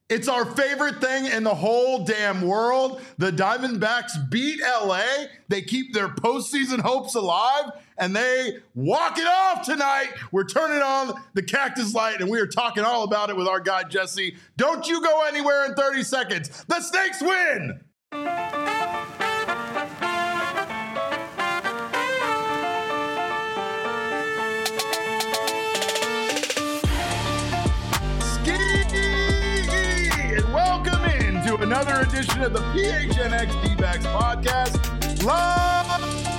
It's our favorite thing in the whole damn world. The Diamondbacks beat LA. They keep their postseason hopes alive, and they walk it off tonight. We're turning on the Cactus Light, and we are talking all about it with our guy, Jesse. Don't you go anywhere in 30 seconds. The Snakes win! Another edition of the PHNX D-Backs podcast, live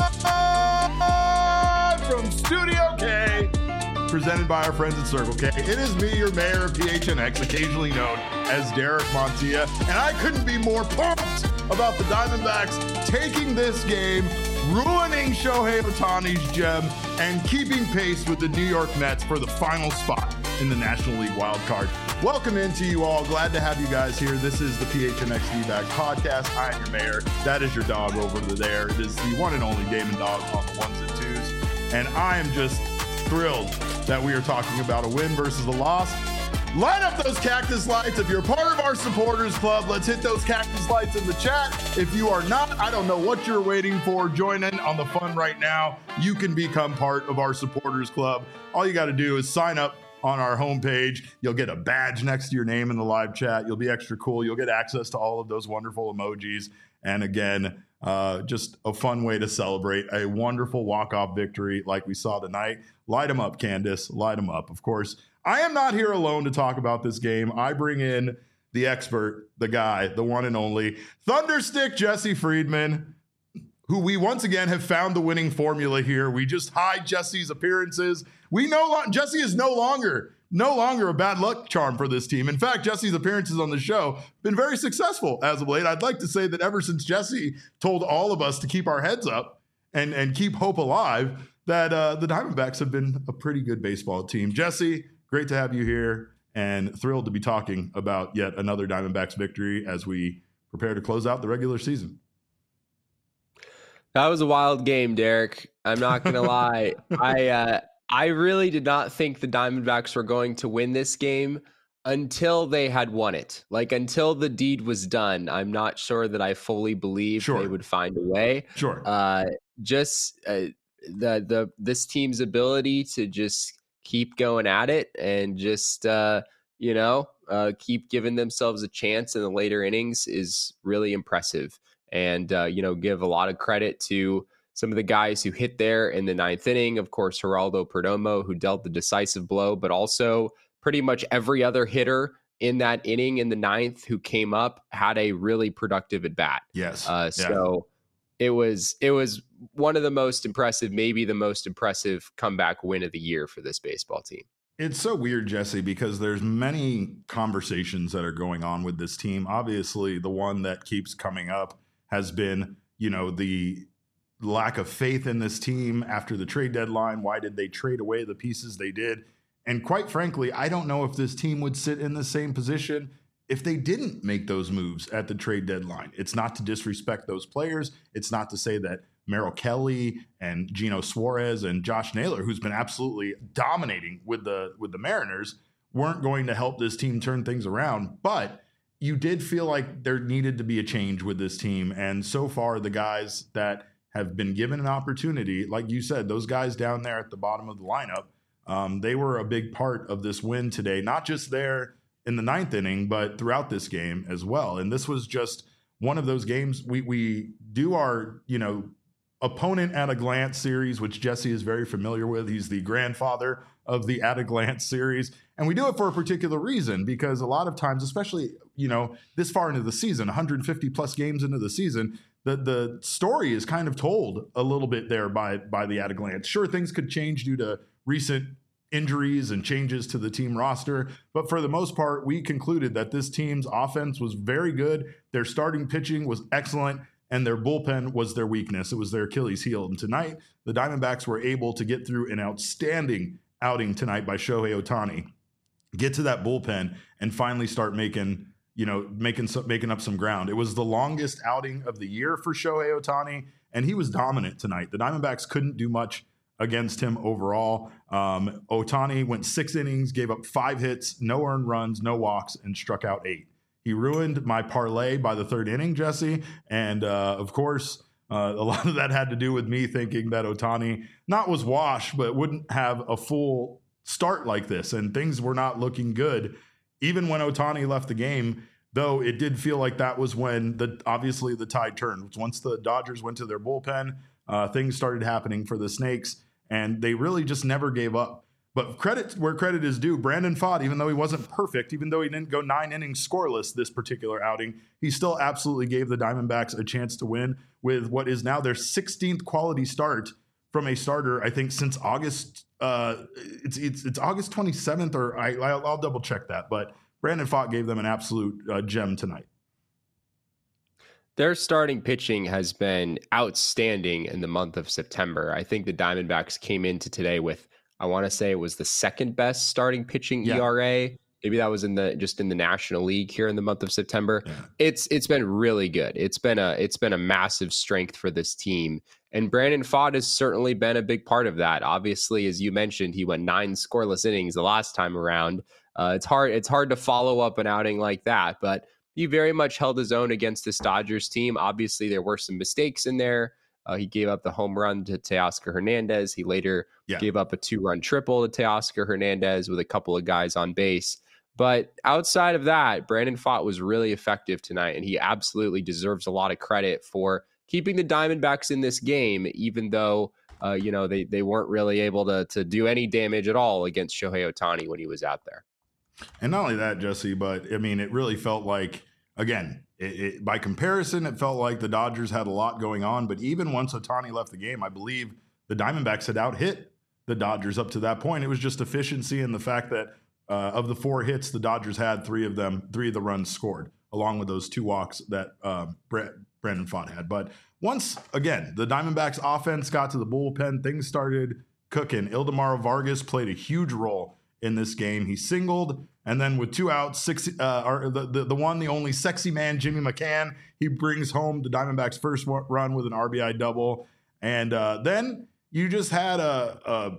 from Studio K, presented by our friends at Circle K. It is me, your mayor of PHNX, occasionally known as Derek Montilla, and I couldn't be more pumped about the Diamondbacks taking this game, ruining Shohei Ohtani's gem, and keeping pace with the New York Mets for the final spot in the National League wild card. Welcome into you all. Glad to have you guys here. This is the PHNX D-Backs podcast. I am your mayor. That is your dog over there. It is the one and only Damon Dog on the ones and twos. And I am just thrilled that we are talking about a win versus a loss. Light up those cactus lights. If you're part of our supporters club, let's hit those cactus lights in the chat. If you are not, I don't know what you're waiting for. Join in on the fun right now. You can become part of our supporters club. All you got to do is sign up on our homepage. You'll get a badge next to your name in the live chat. You'll be extra cool. You'll get access to all of those wonderful emojis. And again, just a fun way to celebrate a wonderful walk-off victory like we saw tonight. Light them up, Candace. Light them up. Of course, I am not here alone to talk about this game. I bring in the expert, the guy, the one and only Thunderstick Jesse Friedman, who we once again have found the winning formula here. We just hide Jesse's appearances. Jesse is no longer a bad luck charm for this team. In fact, Jesse's appearances on the show have been very successful as of late. I'd like to say that ever since Jesse told all of us to keep our heads up and keep hope alive, that the Diamondbacks have been a pretty good baseball team. Jesse, great to have you here and thrilled to be talking about yet another Diamondbacks victory as we prepare to close out the regular season. That was a wild game, Derek. I'm not going to lie. I really did not think the Diamondbacks were going to win this game until they had won it. Like, until the deed was done, I'm not sure that I fully believed they would find a way. Sure. This team's ability to just keep going at it and just keep giving themselves a chance in the later innings is really impressive. And give a lot of credit to some of the guys who hit there in the ninth inning. Of course, Geraldo Perdomo, who dealt the decisive blow, but also pretty much every other hitter in that inning in the ninth who came up had a really productive at bat. Yes. So it was one of the most impressive, maybe the most impressive comeback win of the year for this baseball team. It's so weird, Jesse, because there's many conversations that are going on with this team. Obviously, the one that keeps coming up has been, the lack of faith in this team after the trade deadline. Why did they trade away the pieces they did? And quite frankly, I don't know if this team would sit in the same position if they didn't make those moves at the trade deadline. It's not to disrespect those players. It's not to say that Merrill Kelly and Gino Suarez and Josh Naylor, who's been absolutely dominating with the Mariners, weren't going to help this team turn things around. But you did feel like there needed to be a change with this team. And so far, the guys that have been given an opportunity, like you said, those guys down there at the bottom of the lineup, they were a big part of this win today, not just there in the ninth inning, but throughout this game as well. And this was just one of those games. We do our, opponent at a glance series, which Jesse is very familiar with. He's the grandfather of the at a glance series. And we do it for a particular reason, because a lot of times, especially, this far into the season, 150 plus games into the season, the story is kind of told a little bit there by the at a glance. Sure, things could change due to recent injuries and changes to the team roster, but for the most part, we concluded that this team's offense was very good. Their starting pitching was excellent, and their bullpen was their weakness. It was their Achilles heel. And tonight, the Diamondbacks were able to get through an outstanding outing tonight by Shohei Ohtani, get to that bullpen, and finally start making up some ground. It was the longest outing of the year for Shohei Ohtani, and he was dominant tonight. The Diamondbacks couldn't do much against him overall. Ohtani went 6 innings, gave up 5 hits, no earned runs, no walks, and struck out 8. He ruined my parlay by the third inning, Jesse. And of course, a lot of that had to do with me thinking that Ohtani not was washed, but wouldn't have a full start like this. And things were not looking good. Even when Ohtani left the game, though, it did feel like that was when obviously the tide turned. Once the Dodgers went to their bullpen, things started happening for the Snakes, and they really just never gave up. But credit where credit is due, Brandon Pfaadt, even though he wasn't perfect, even though he didn't go 9 innings scoreless this particular outing, he still absolutely gave the Diamondbacks a chance to win with what is now their 16th quality start from a starter, I think, since August. It's August 27th, or I'll double check that. But Brandon Pfaadt gave them an absolute gem tonight. Their starting pitching has been outstanding in the month of September. I think the Diamondbacks came into today with, I want to say it was the second best starting pitching ERA. Maybe that was in the National League here in the month of September. Yeah. It's been really good. It's been a massive strength for this team. And Brandon Pfaadt has certainly been a big part of that. Obviously, as you mentioned, he went 9 scoreless innings the last time around. It's hard to follow up an outing like that, but he very much held his own against this Dodgers team. Obviously, there were some mistakes in there. He gave up the home run to Teoscar Hernandez. He later gave up a 2-run triple to Teoscar Hernandez with a couple of guys on base. But outside of that, Brandon Pfaadt was really effective tonight, and he absolutely deserves a lot of credit for keeping the Diamondbacks in this game, even though they weren't really able to do any damage at all against Shohei Ohtani when he was out there. And not only that, Jesse, but I mean, it really felt like, again, by comparison, it felt like the Dodgers had a lot going on. But even once Ohtani left the game, I believe the Diamondbacks had out-hit the Dodgers up to that point. It was just efficiency and the fact that of the 4 hits the Dodgers had, 3 of the runs scored, along with those 2 walks that Brandon Pfaadt had. But once again, the Diamondbacks offense got to the bullpen, things started cooking. Ildemaro Vargas played a huge role in this game. He singled, and then with 2 outs, the only sexy man, Jimmy McCann, he brings home the Diamondbacks' first run with an RBI double. And then you just had a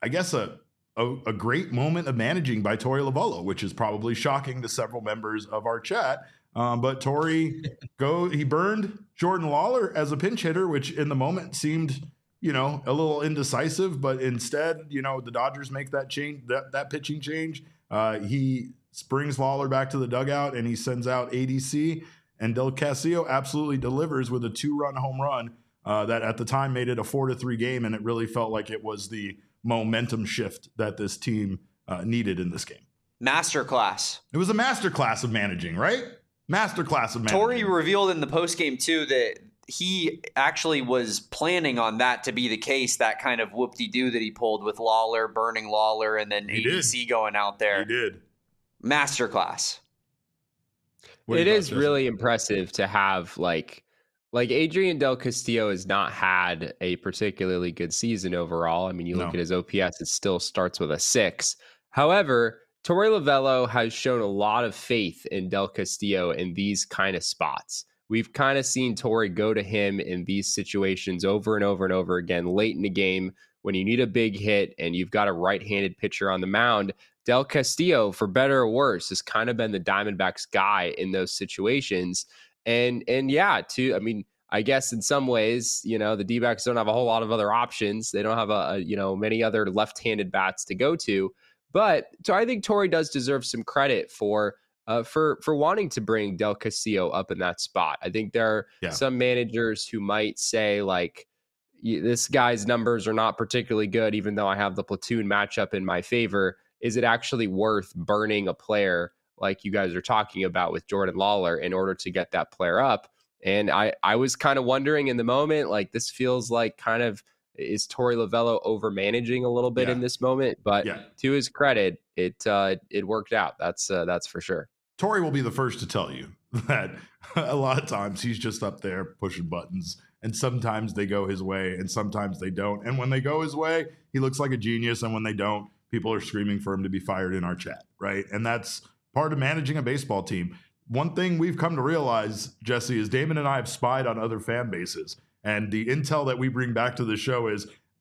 great moment of managing by Torey Lovullo, which is probably shocking to several members of our chat. But Torey he burned Jordan Lawler as a pinch hitter, which in the moment seemed, a little indecisive, but instead, the Dodgers make that change, that pitching change. He brings Lawler back to the dugout and he sends out ADC, and Del Castillo absolutely delivers with a 2-run home run that at the time made it a 4-3 game. And it really felt like it was the momentum shift that this team needed in this game. Masterclass. It was a masterclass of managing, right? Masterclass of managing. Torey revealed in the postgame too that he actually was planning on that to be the case, that kind of whoop-de-doo that he pulled with Lawler, burning Lawler, and then ADC going out there. He did. Masterclass. It is really impressive to have like Adrian Del Castillo has not had a particularly good season overall. I mean, you look at his OPS, it still starts with a 6. However, Torey Lovullo has shown a lot of faith in Del Castillo in these kind of spots. We've kind of seen Torey go to him in these situations over and over and over again late in the game when you need a big hit and you've got a right-handed pitcher on the mound. Del Castillo, for better or worse, has kind of been the Diamondbacks guy in those situations. And I guess in some ways, the D-backs don't have a whole lot of other options. They don't have many other left-handed bats to go to. But so I think Torey does deserve some credit for wanting to bring Del Castillo up in that spot. I think there are some managers who might say, like, this guy's numbers are not particularly good, even though I have the platoon matchup in my favor. Is it actually worth burning a player like you guys are talking about with Jordan Lawler in order to get that player up? And I was kind of wondering in the moment, like, this feels like kind of, is Torey Lovullo over managing a little bit in this moment? But to his credit, it worked out. That's for sure. Torey will be the first to tell you that a lot of times he's just up there pushing buttons, and sometimes they go his way and sometimes they don't. And when they go his way, he looks like a genius. And when they don't, people are screaming for him to be fired in our chat, right? And that's part of managing a baseball team. One thing we've come to realize, Jesse, is Damon and I have spied on other fan bases. And the intel that we bring back to the show is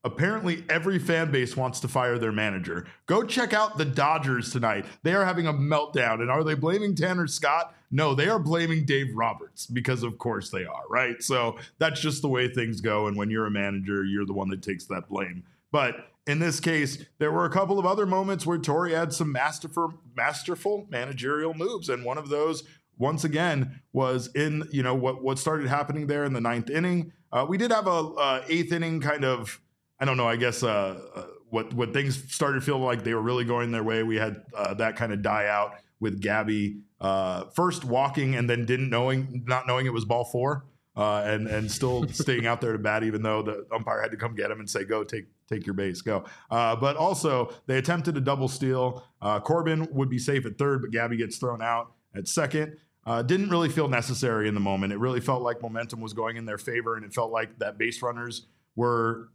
Apparently, every fan base wants to fire their manager. Go check out the Dodgers tonight. They are having a meltdown. And are they blaming Tanner Scott? No, they are blaming Dave Roberts, because of course they are, right? So that's just the way things go. And when you're a manager, you're the one that takes that blame. But in this case, there were a couple of other moments where Torey had some masterful managerial moves. And one of those, once again, was in, what started happening there in the 9th inning. We did have a 8th inning kind of, I don't know, I guess what things started feeling like they were really going their way. We had that kind of die out with Gabby first walking and then not knowing it was ball 4 and still staying out there to bat, even though the umpire had to come get him and say, go, take your base, go. But also they attempted a double steal. Corbin would be safe at 3rd, but Gabby gets thrown out at 2nd. Didn't really feel necessary in the moment. It really felt like momentum was going in their favor, and it felt like that base runners were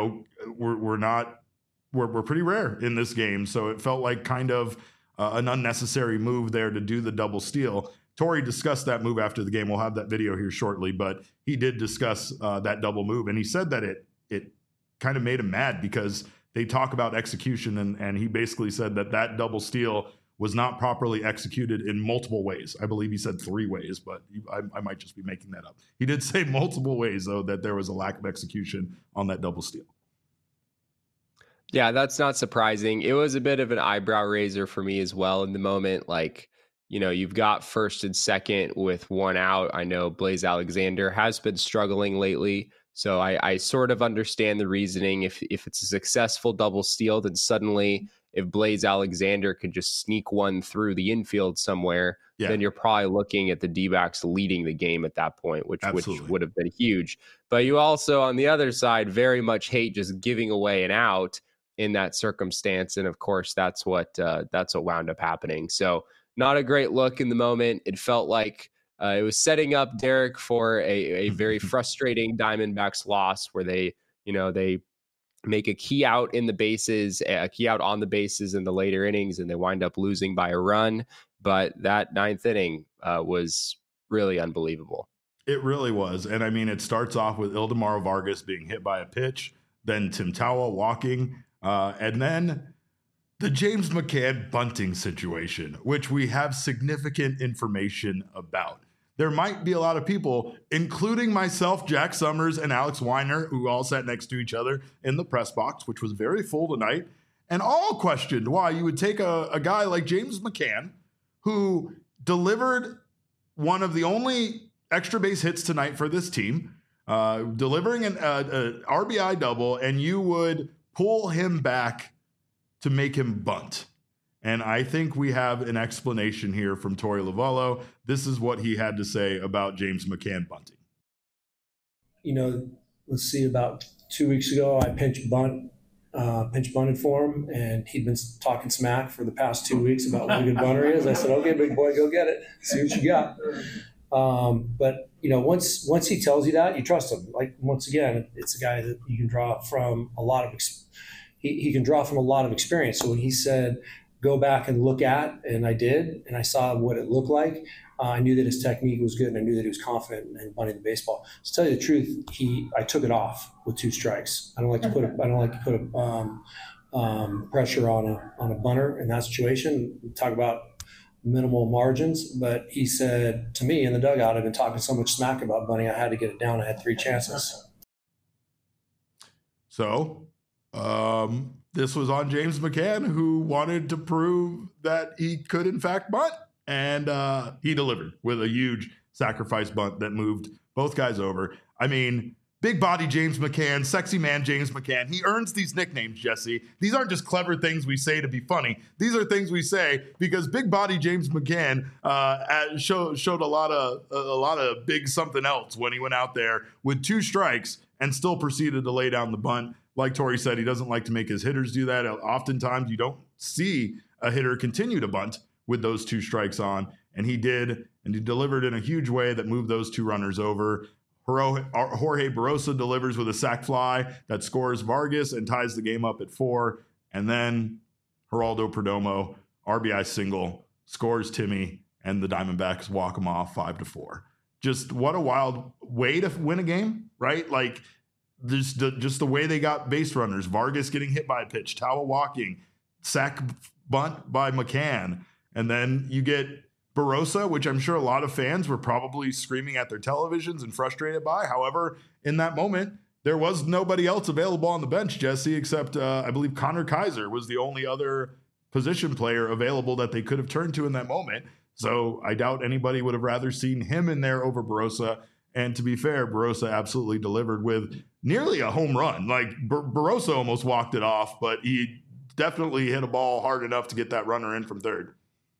pretty rare in this game. So it felt like kind of an unnecessary move there to do the double steal. Torey discussed that move after the game. We'll have that video here shortly, but he did discuss that double move, and he said that it kind of made him mad because they talk about execution, and he basically said that double steal was not properly executed in multiple ways. I believe he said 3 ways, but I might just be making that up. He did say multiple ways, though, that there was a lack of execution on that double steal. Yeah, that's not surprising. It was a bit of an eyebrow raiser for me as well in the moment. Like, you've got 1st and 2nd with 1 out. I know Blaze Alexander has been struggling lately, so I sort of understand the reasoning. If it's a successful double steal, then suddenly if Blaze Alexander could just sneak one through the infield somewhere, then you're probably looking at the D-backs leading the game at that point, which would have been huge. But you also, on the other side, very much hate just giving away an out in that circumstance. And of course, that's what wound up happening. So not a great look in the moment. It felt like it was setting up Derek for a very frustrating Diamondbacks loss where they make a key out on the bases in the later innings, and they wind up losing by a run. But that 9th inning was really unbelievable. It really was. And I mean, it starts off with Ildemaro Vargas being hit by a pitch, then Tim Tawa walking, and then the James McCann bunting situation, which we have significant information about. There might be a lot of people, including myself, Jack Summers, and Alex Weiner, who all sat next to each other in the press box, which was very full tonight, and all questioned why you would take a guy like James McCann, who delivered one of the only extra base hits tonight for this team, delivering an RBI double, and you would pull him back to make him bunt. And I think we have an explanation here from Torey Lovullo. This is what he had to say about James McCann bunting. Let's see, about 2 weeks ago, I pinch bunted for him, and he'd been talking smack for the past 2 weeks about what a good bunter he is. I said, okay, big boy, go get it. See what you got. But once he tells you that, you trust him. Like, once again, it's a guy that you can draw from a lot of he can draw from a lot of experience. So when he said, go back and look at, and I did, and I saw what it looked like, I knew that his technique was good, and I knew that he was confident in bunting the baseball. To tell you the truth, I took it off with 2 strikes. I don't like to put pressure on a bunter in that situation. We talk about minimal margins, but he said to me in the dugout, I've been talking so much smack about bunting, I had to get it down. I had 3 chances. So, this was on James McCann, who wanted to prove that he could in fact bunt, and he delivered with a huge sacrifice bunt that moved both guys over. I mean, big body James McCann, sexy man James McCann. He earns these nicknames, Jesse. These aren't just clever things we say to be funny. These are things we say because big body James McCann showed a lot of big something else when he went out there with 2 strikes and still proceeded to lay down the bunt. Like Torey said, he doesn't like to make his hitters do that. Oftentimes, you don't see a hitter continue to bunt with those 2 strikes on, and he did, and he delivered in a huge way that moved those 2 runners over. Jorge Barosa delivers with a sac fly that scores Vargas and ties the game up at 4, and then Geraldo Perdomo, RBI single, scores Timmy, and the Diamondbacks walk him off 5-4. Just what a wild way to win a game, right? Like, just the way they got base runners, Vargas getting hit by a pitch, Tawa walking, sack bunt by McCann, and then you get Barossa, which I'm sure a lot of fans were probably screaming at their televisions and frustrated by. However, in that moment, there was nobody else available on the bench, Jesse, except I believe Connor Kaiser was the only other position player available that they could have turned to in that moment. So I doubt anybody would have rather seen him in there over Barossa. And to be fair, Barossa absolutely delivered with nearly a home run. Like Barossa almost walked it off, but he definitely hit a ball hard enough to get that runner in from third.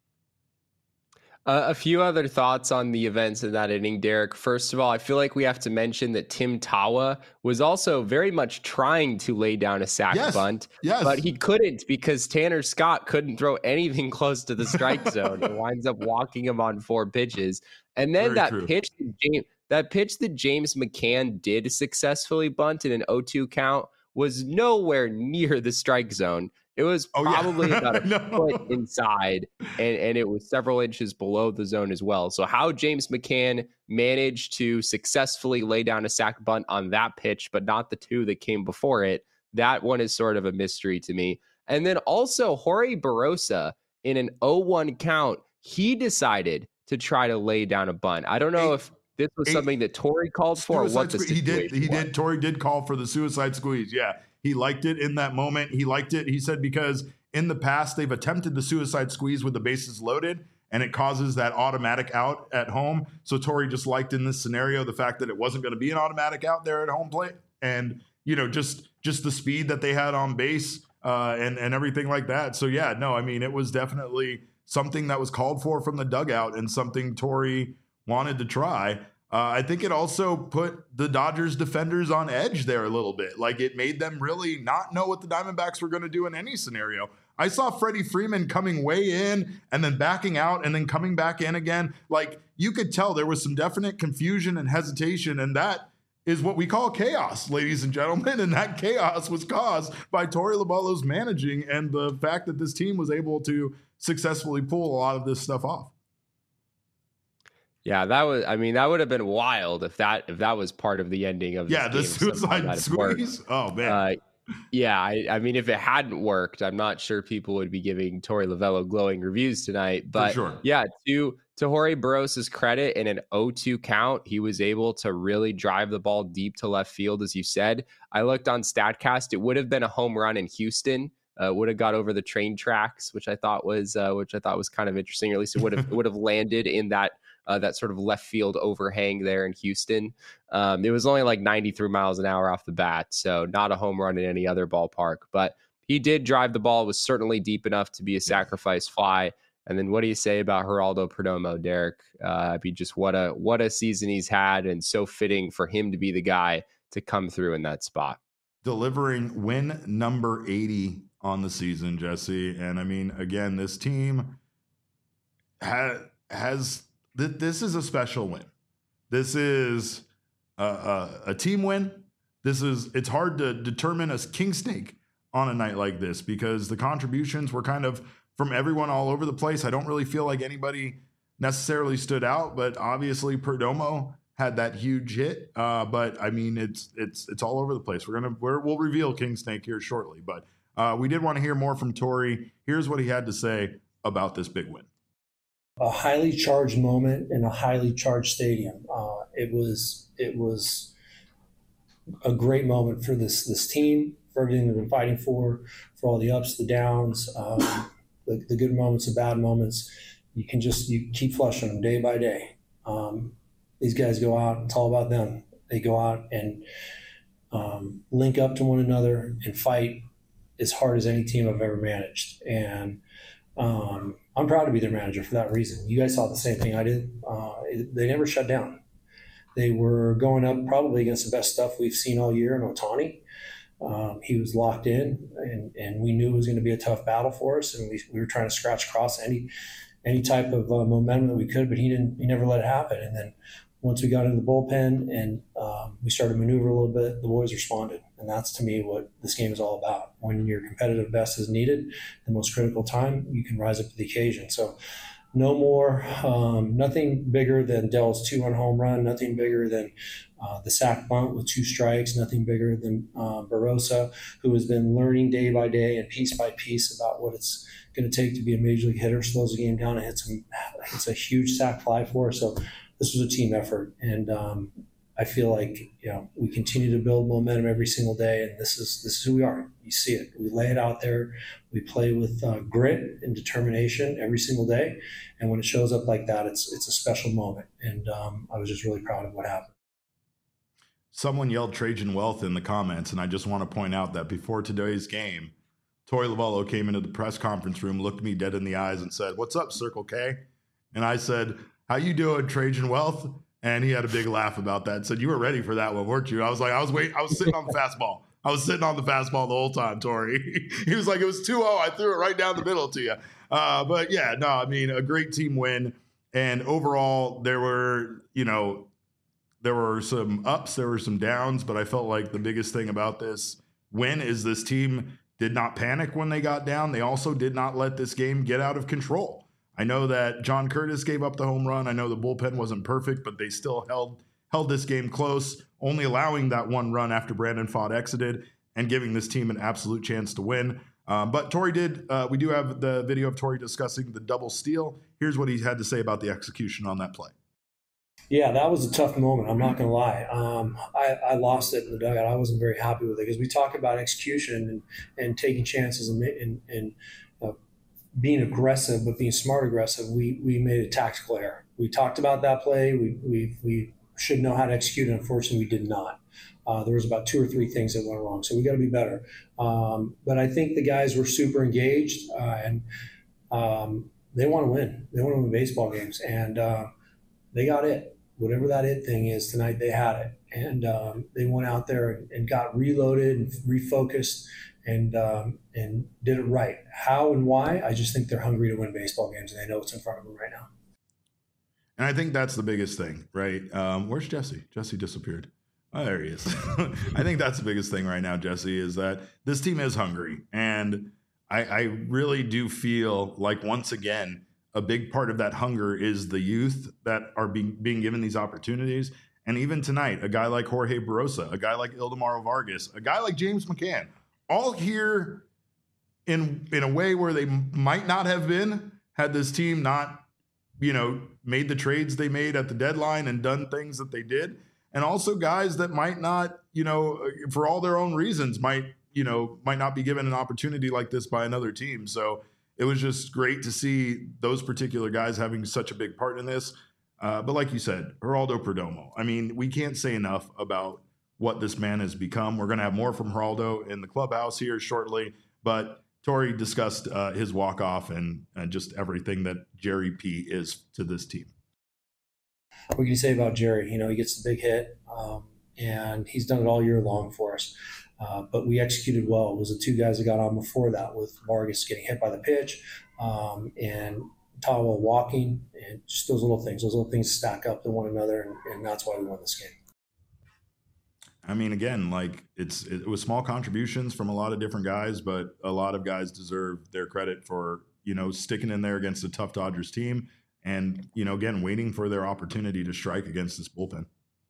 A few other thoughts on the events in that inning, Derek. First of all, I feel like we have to mention that Tim Tawa was also very much trying to lay down a sac bunt, but he couldn't because Tanner Scott couldn't throw anything close to the strike zone. It winds up walking him on 4 pitches. And then pitch that James McCann did successfully bunt in an 0-2 count was nowhere near the strike zone. It was probably about a foot inside, and it was several inches below the zone as well. So how James McCann managed to successfully lay down a sac bunt on that pitch, but not the 2 that came before it, that one is sort of a mystery to me. And then also Jorge Barossa in an 0-1 count, he decided to try to lay down a bunt. I don't know if this was something that Torey called for or what the situation He did. Torey did call for the suicide squeeze. Yeah. He liked it in that moment. He liked it. He said because in the past they've attempted the suicide squeeze with the bases loaded and it causes that automatic out at home. So Torey just liked in this scenario the fact that it wasn't going to be an automatic out there at home plate, and just the speed that they had on base and everything like that. So yeah, no, I mean it was definitely something that was called for from the dugout and something Torey wanted to try. I think it also put the Dodgers defenders on edge there a little bit. Like it made them really not know what the Diamondbacks were going to do in any scenario. I saw Freddie Freeman coming way in and then backing out and then coming back in again. Like you could tell there was some definite confusion and hesitation, and that is what we call chaos, ladies and gentlemen. And that chaos was caused by Torey Lovullo's managing and the fact that this team was able to successfully pull a lot of this stuff off. Yeah, that would have been wild if that was part of the ending of this game. The suicide squeeze. Oh man. I mean, if it hadn't worked, I'm not sure people would be giving Torey Lovullo glowing reviews tonight. But sure. Yeah, to Jorge Barossa's credit, in an 0-2 count, he was able to really drive the ball deep to left field, as you said. I looked on StatCast; it would have been a home run in Houston. Would have got over the train tracks, which I thought was kind of interesting. Or at least it would have landed in that sort of left field overhang there in Houston. It was only like 93 miles an hour off the bat, so not a home run in any other ballpark. But he did drive the ball, was certainly deep enough to be a sacrifice fly. And then what do you say about Geraldo Perdomo, Derek? Just what a season he's had, and so fitting for him to be the guy to come through in that spot. Delivering win number 80 on the season, Jesse. And I mean, again, this team has this is a special win. This is a team win. It's hard to determine a king snake on a night like this because the contributions were kind of from everyone all over the place. I don't really feel like anybody necessarily stood out, but obviously Perdomo had that huge hit. But I mean, it's all over the place. We'll reveal king snake here shortly, but we did want to hear more from Torey. Here's what he had to say about this big win. A highly charged moment in a highly charged stadium. It was a great moment for this team, for everything they've been fighting for all the ups, the downs, the good moments, the bad moments. You keep flushing them day by day. These guys go out, it's all about them. They go out and link up to one another and fight as hard as any team I've ever managed. And I'm proud to be their manager for that reason. You guys saw the same thing I did. They never shut down. They were going up probably against the best stuff we've seen all year in Ohtani. He was locked in, and we knew it was going to be a tough battle for us, and we were trying to scratch across any type of momentum that we could, but he never let it happen. And then once we got into the bullpen and we started to maneuver a little bit, the boys responded. And that's, to me, what this game is all about. When your competitive best is needed, the most critical time, you can rise up to the occasion. So no more, nothing bigger than Dell's 2-run home run, nothing bigger than the sack bunt with 2 strikes, nothing bigger than Barosa, who has been learning day by day and piece by piece about what it's going to take to be a major league hitter, slows the game down, and hits a huge sack fly for us. So this was a team effort, and I feel like we continue to build momentum every single day, and this is who we are. You see it. We lay it out there. We play with grit and determination every single day, and when it shows up like that, it's a special moment. And I was just really proud of what happened. Someone yelled Trajan Wealth in the comments, and I just want to point out that before today's game, Torey Lovullo came into the press conference room, looked me dead in the eyes, and said, "What's up, Circle K?" And I said, "How you doing, Trajan Wealth?" And he had a big laugh about that and said, "You were ready for that one, weren't you?" I was like, I was sitting on the fastball. I was sitting on the fastball the whole time, Torey. He was like, "It was 2-0. I threw it right down the middle to you." But yeah, no, I mean, a great team win. And overall, there were some ups, there were some downs, but I felt like the biggest thing about this win is this team did not panic when they got down. They also did not let this game get out of control. I know that John Curtis gave up the home run. I know the bullpen wasn't perfect, but they still held this game close, only allowing that one run after Brandon Pfaadt exited and giving this team an absolute chance to win. But Torey we do have the video of Torey discussing the double steal. Here's what he had to say about the execution on that play. Yeah, that was a tough moment. I'm not going to lie. I lost it in the dugout. I wasn't very happy with it because we talk about execution and taking chances and being aggressive, but being smart aggressive. We made a tactical error. We talked about that play. We should know how to execute it. Unfortunately, we did not. There was about 2 or 3 things that went wrong, so we got to be better. But I think the guys were super engaged and they want to win. They want to win baseball games, and they got it. Whatever that it thing is tonight, they had it, and they went out there and got reloaded and refocused and did it right. How and why? I just think they're hungry to win baseball games, and they know what's in front of them right now. And I think that's the biggest thing, right? Where's Jesse? Jesse disappeared. Oh, there he is. I think that's the biggest thing right now, Jesse, is that this team is hungry, and I really do feel like once again, a big part of that hunger is the youth that are being given these opportunities. And even tonight, a guy like Jorge Barosa, a guy like Ildemaro Vargas, a guy like James McCann, all here in a way where they might not have been had this team not, made the trades they made at the deadline and done things that they did. And also guys that might not, for all their own reasons, might not be given an opportunity like this by another team. So it was just great to see those particular guys having such a big part in this. But like you said, Geraldo Perdomo, I mean, we can't say enough about what this man has become. We're going to have more from Geraldo in the clubhouse here shortly. But Torey discussed his walk-off and just everything that Jerry P is to this team. What can you say about Jerry? He gets the big hit, and he's done it all year long for us. But we executed well. It was the 2 guys that got on before that, with Vargas getting hit by the pitch and Tawa walking, and just those little things stack up to one another, and that's why we won this game. I mean, again, like it was small contributions from a lot of different guys, but a lot of guys deserve their credit for, sticking in there against a tough Dodgers team and, again, waiting for their opportunity to strike against this bullpen.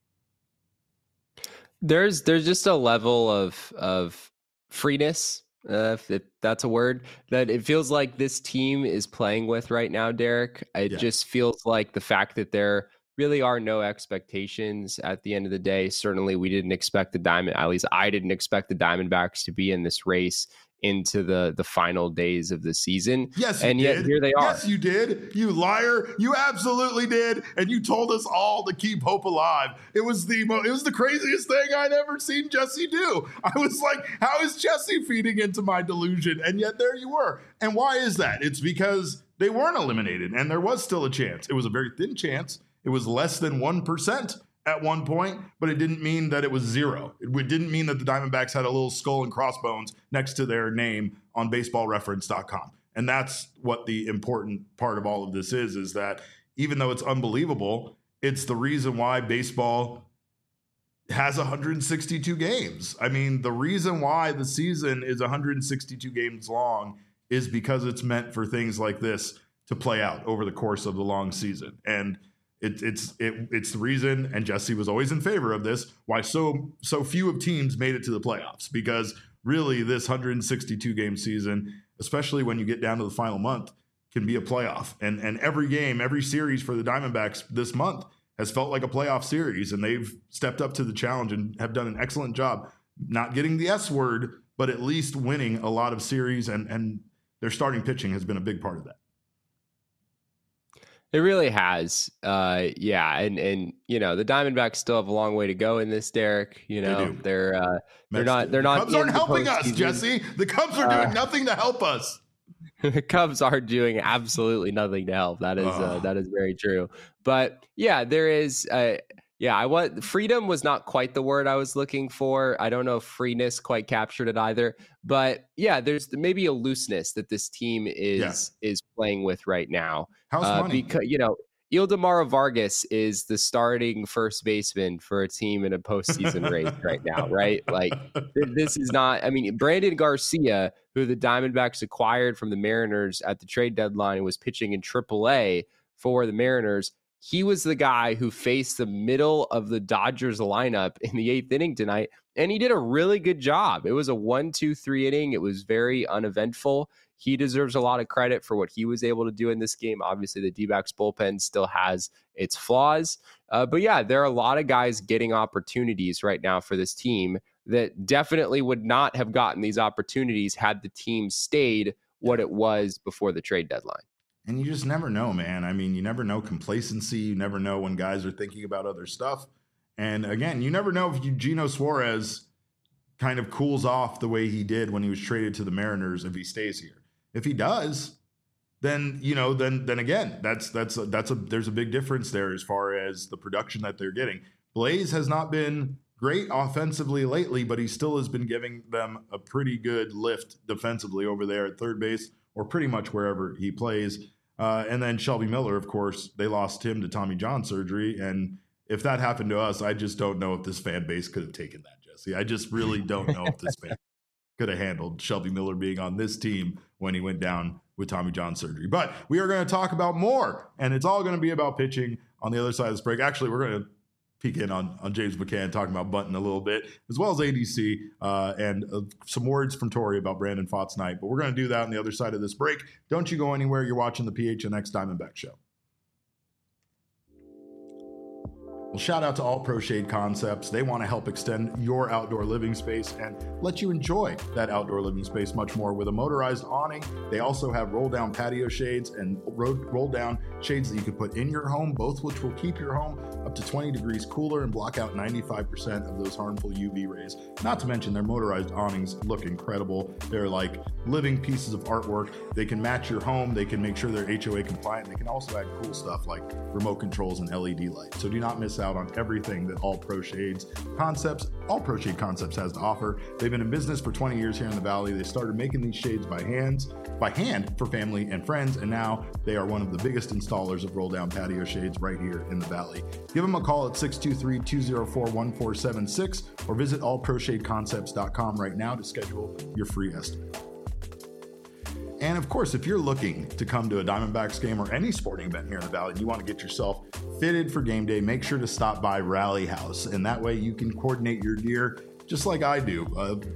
There's just a level of freeness, if that's a word, that it feels like this team is playing with right now, Derek. It just feels like the fact that there really are no expectations at the end of the day. Certainly we didn't expect at least I didn't expect the Diamondbacks to be in this race into the final days of the season. Yes, and you yet did. Here they are. Yes, you did. You liar. You absolutely did. And you told us all to keep hope alive. It was the craziest thing I'd ever seen Jesse do. I was like, how is Jesse feeding into my delusion? And yet there you were. And why is that? It's because they weren't eliminated and there was still a chance. It was a very thin chance. It was less than 1% at one point, but it didn't mean that it was 0. It didn't mean that the Diamondbacks had a little skull and crossbones next to their name on baseballreference.com. And that's what the important part of all of this is that even though it's unbelievable, it's the reason why baseball has 162 games. I mean, the reason why the season is 162 games long is because it's meant for things like this to play out over the course of the long season. And it's the reason, and Jesse was always in favor of this, why so few of teams made it to the playoffs, because really this 162 game season, especially when you get down to the final month, can be a playoff. And every game, every series for the Diamondbacks this month has felt like a playoff series, and they've stepped up to the challenge and have done an excellent job, not getting the S word, but at least winning a lot of series, and their starting pitching has been a big part of that. It really has. Yeah. And, you know, the Diamondbacks still have a long way to go in this, Derek. You know, they're not. The Cubs aren't helping us, Jesse. The Cubs are doing nothing to help us. The Cubs are doing absolutely nothing to help. That is very true. But yeah, there is. Freedom was not quite the word I was looking for. I don't know if freeness quite captured it either. But yeah, there's maybe a looseness that this team is playing with right now. How's money? Because, you know, Ildemaro Vargas is the starting first baseman for a team in a postseason race right now, right? Like, this is not. I mean, Brandon Garcia, who the Diamondbacks acquired from the Mariners at the trade deadline, was pitching in AAA for the Mariners. He was the guy who faced the middle of the Dodgers lineup in the 8th inning tonight, and he did a really good job. It was a 1-2-3 inning. It was very uneventful. He deserves a lot of credit for what he was able to do in this game. Obviously, the D-backs bullpen still has its flaws. But yeah, there are a lot of guys getting opportunities right now for this team that definitely would not have gotten these opportunities had the team stayed what it was before the trade deadline. And you just never know, man. I mean, you never know complacency. You never know when guys are thinking about other stuff. And again, you never know if Eugenio Suarez kind of cools off the way he did when he was traded to the Mariners if he stays here. If he does, then, you know, then again, there's a big difference there as far as the production that they're getting. Blaze has not been great offensively lately, but he still has been giving them a pretty good lift defensively over there at third base, or pretty much wherever he plays. And then Shelby Miller, of course, they lost him to Tommy John surgery. And if that happened to us, I just don't know if this fan base could have taken that, Jesse. I just really don't know if this fan could have handled Shelby Miller being on this team when he went down with Tommy John surgery. But we are going to talk about more, and it's all going to be about pitching on the other side of this break. Actually, we're going to peek in on James McCann, talking about Bunting a little bit, as well as ADC, and some words from Torey about Brandon Pfaadt's night. But we're going to do that on the other side of this break. Don't you go anywhere. You're watching the PHNX Diamondback Show. Well, shout out to All Pro Shade Concepts. They want to help extend your outdoor living space and let you enjoy that outdoor living space much more with a motorized awning. They also have roll-down patio shades and roll-down shades that you can put in your home, both which will keep your home up to 20 degrees cooler and block out 95% of those harmful UV rays. Not to mention their motorized awnings look incredible. They're like living pieces of artwork. They can match your home. They can make sure they're HOA compliant. They can also add cool stuff like remote controls and LED lights. So do not miss out on everything that All Pro Shade Concepts has to offer. They've been in business for 20 years here in the Valley. They started making these shades by hand for family and friends, and now they are one of the biggest installers of roll-down patio shades right here in the Valley. Give them a call at 623-204-1476 or visit allproshadeconcepts.com right now to schedule your free estimate. And of course, if you're looking to come to a Diamondbacks game or any sporting event here in the Valley and you want to get yourself fitted for game day, make sure to stop by Rally House. And that way you can coordinate your gear just like I do.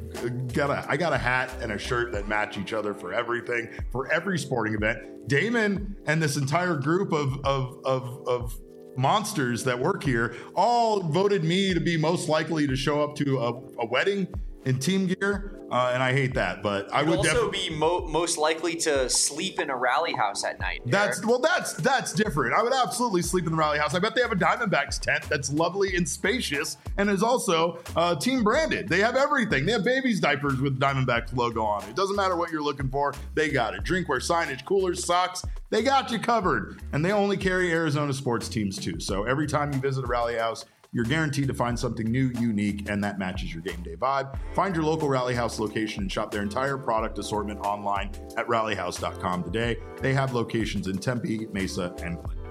I got a hat and a shirt that match each other for everything, for every sporting event. Damon and this entire group of monsters that work here all voted me to be most likely to show up to a wedding in team gear, and I hate that, but I would also be most likely to sleep in a Rally House at night. That's different. I would absolutely sleep in the Rally House. I bet they have a Diamondbacks tent that's lovely and spacious and is also team branded. They have everything. They have babies' diapers with Diamondbacks logo on it. It doesn't matter what you're looking for. They got it. Drinkware, signage, coolers, socks. They got you covered. And they only carry Arizona sports teams too. So every time you visit a Rally House, you're guaranteed to find something new, unique, and that matches your game day vibe. Find your local Rally House location and shop their entire product assortment online at rallyhouse.com today. They have locations in Tempe, Mesa, and Clinton.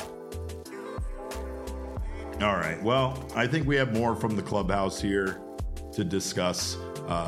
All right. Well, I think we have more from the clubhouse here to discuss.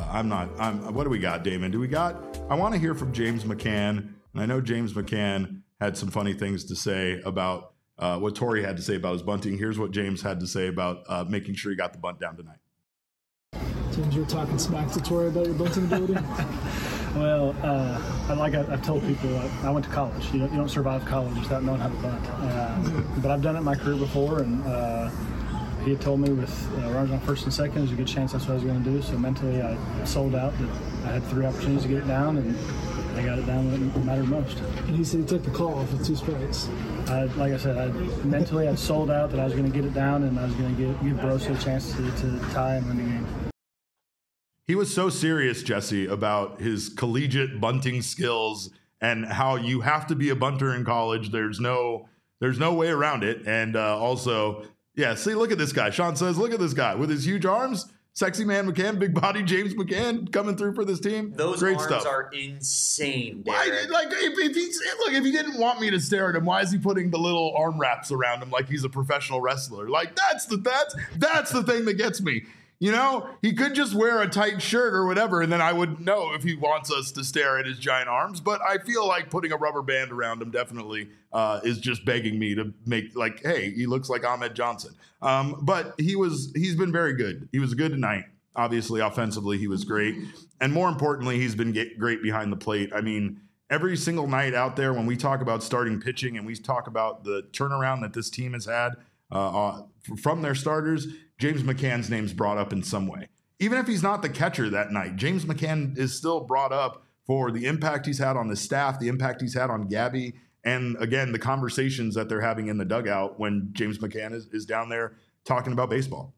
What do we got, Damon? I want to hear from James McCann. And I know James McCann had some funny things to say about what Torrey had to say about his bunting. Here's what James had to say about making sure he got the bunt down tonight. James, you were talking smack to Torrey about your bunting ability? Well, I've told people, I went to college. You don't survive college without knowing how to bunt. But I've done it in my career before, and he had told me with runners on first and second, there's a good chance that's what I was going to do. So mentally, I sold out that I had 3 opportunities to get it down, and I got it down when it mattered most. And he said he took the call off with 2 strikes. Like I said, mentally I'd sold out that I was going to get it down, and I was going to give Barossa a chance to tie and win the game. He was so serious, Jesse, about his collegiate bunting skills and how you have to be a bunter in college. There's no way around it. And also, yeah, see, look at this guy. Sean says, look at this guy with his huge arms. Sexy man McCann, big body James McCann coming through for this team. Those Great arms stuff. are insane, Why, Derek. like, if he didn't want me to stare at him, why is he putting the little arm wraps around him like he's a professional wrestler? Like, that's the thing that gets me. You know, he could just wear a tight shirt or whatever, and then I would know if he wants us to stare at his giant arms. But I feel like putting a rubber band around him definitely is just begging me to make, like, hey, he looks like Ahmed Johnson. But he's been very good. He was good tonight. Obviously, offensively, he was great. And more importantly, he's been great behind the plate. I mean, every single night out there when we talk about starting pitching and we talk about the turnaround that this team has had from their starters, James McCann's name's brought up in some way. Even if he's not the catcher that night, James McCann is still brought up for the impact he's had on the staff, the impact he's had on Gabby, and again, the conversations that they're having in the dugout when James McCann is down there talking about baseball.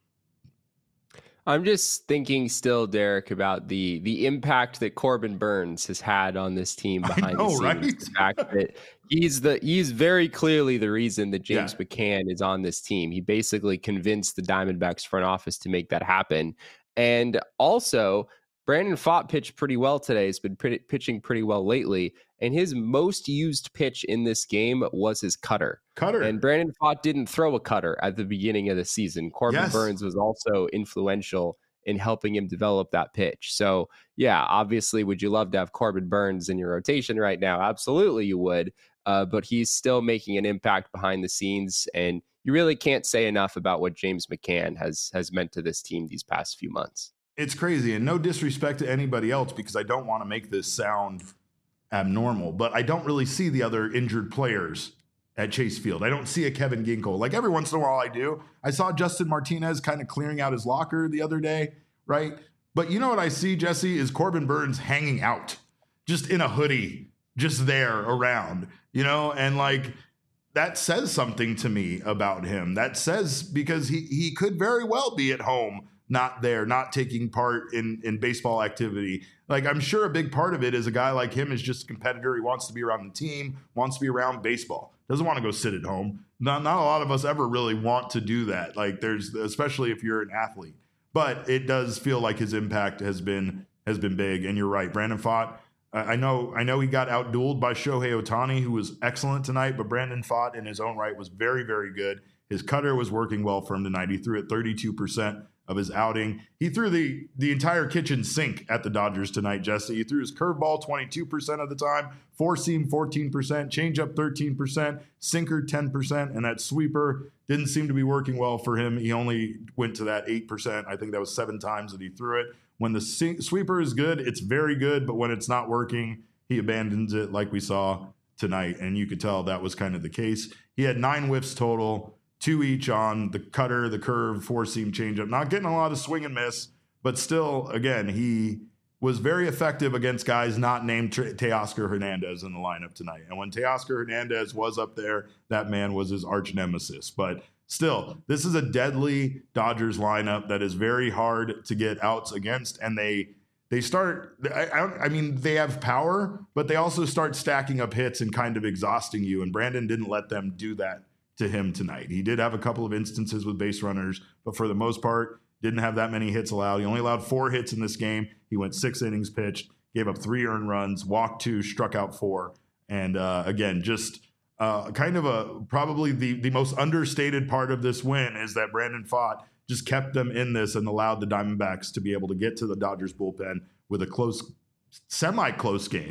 I'm just thinking still, Derek, about the impact that Corbin Burns has had on this team behind the scenes. Right? The fact that he's very clearly the reason that James McCann is on this team. He basically convinced the Diamondbacks front office to make that happen. And also, Brandon Pfaadt pitched pretty well today. He's been pitching pretty well lately. And his most used pitch in this game was his cutter. And Brandon Pfaadt didn't throw a cutter at the beginning of the season. Corbin Burns was also influential in helping him develop that pitch. So, yeah, obviously, would you love to have Corbin Burns in your rotation right now? Absolutely, you would. But he's still making an impact behind the scenes. And you really can't say enough about what James McCann has meant to this team these past few months. It's crazy, and no disrespect to anybody else because I don't want to make this sound abnormal, but I don't really see the other injured players at Chase Field. I don't see a Kevin Ginkel. Like every once in a while I do. I saw Justin Martinez kind of clearing out his locker the other day, right? But you know what I see, Jesse, is Corbin Burns hanging out just in a hoodie, just there around, you know, and like that says something to me about him. That says because he could very well be at home, not there, not taking part in baseball activity. Like I'm sure a big part of it is a guy like him is just a competitor. He wants to be around the team, wants to be around baseball, doesn't want to go sit at home. Not a lot of us ever really want to do that. Like especially if you're an athlete, but it does feel like his impact has been big. And you're right, Brandon Pfaadt. I know he got outdueled by Shohei Ohtani, who was excellent tonight, but Brandon Pfaadt in his own right was very, very good. His cutter was working well for him tonight. He threw at 32% of his outing. He threw the entire kitchen sink at the Dodgers tonight, Jesse. He threw his curveball 22% of the time, four-seam 14%, changeup 13%, sinker 10%, and that sweeper didn't seem to be working well for him. He only went to that 8%. I think that was 7 times that he threw it. When the sweeper is good, it's very good, but when it's not working, he abandons it like we saw tonight, and you could tell that was kind of the case. He had 9 whiffs total, 2 each on the cutter, the curve, 4-seam changeup. Not getting a lot of swing and miss, but still, again, he was very effective against guys not named Teoscar Hernandez in the lineup tonight. And when Teoscar Hernandez was up there, that man was his arch nemesis. But still, this is a deadly Dodgers lineup that is very hard to get outs against, and they start. I mean, they have power, but they also start stacking up hits and kind of exhausting you. And Brandon didn't let them do that to him tonight. He did have a couple of instances with base runners, but for the most part, didn't have that many hits allowed. He only allowed 4 hits in this game. He went 6 innings pitched, gave up 3 earned runs, walked 2, struck out 4. And again, just kind of probably the most understated part of this win is that Brandon Pfaadt just kept them in this and allowed the Diamondbacks to be able to get to the Dodgers bullpen with a close, semi-close game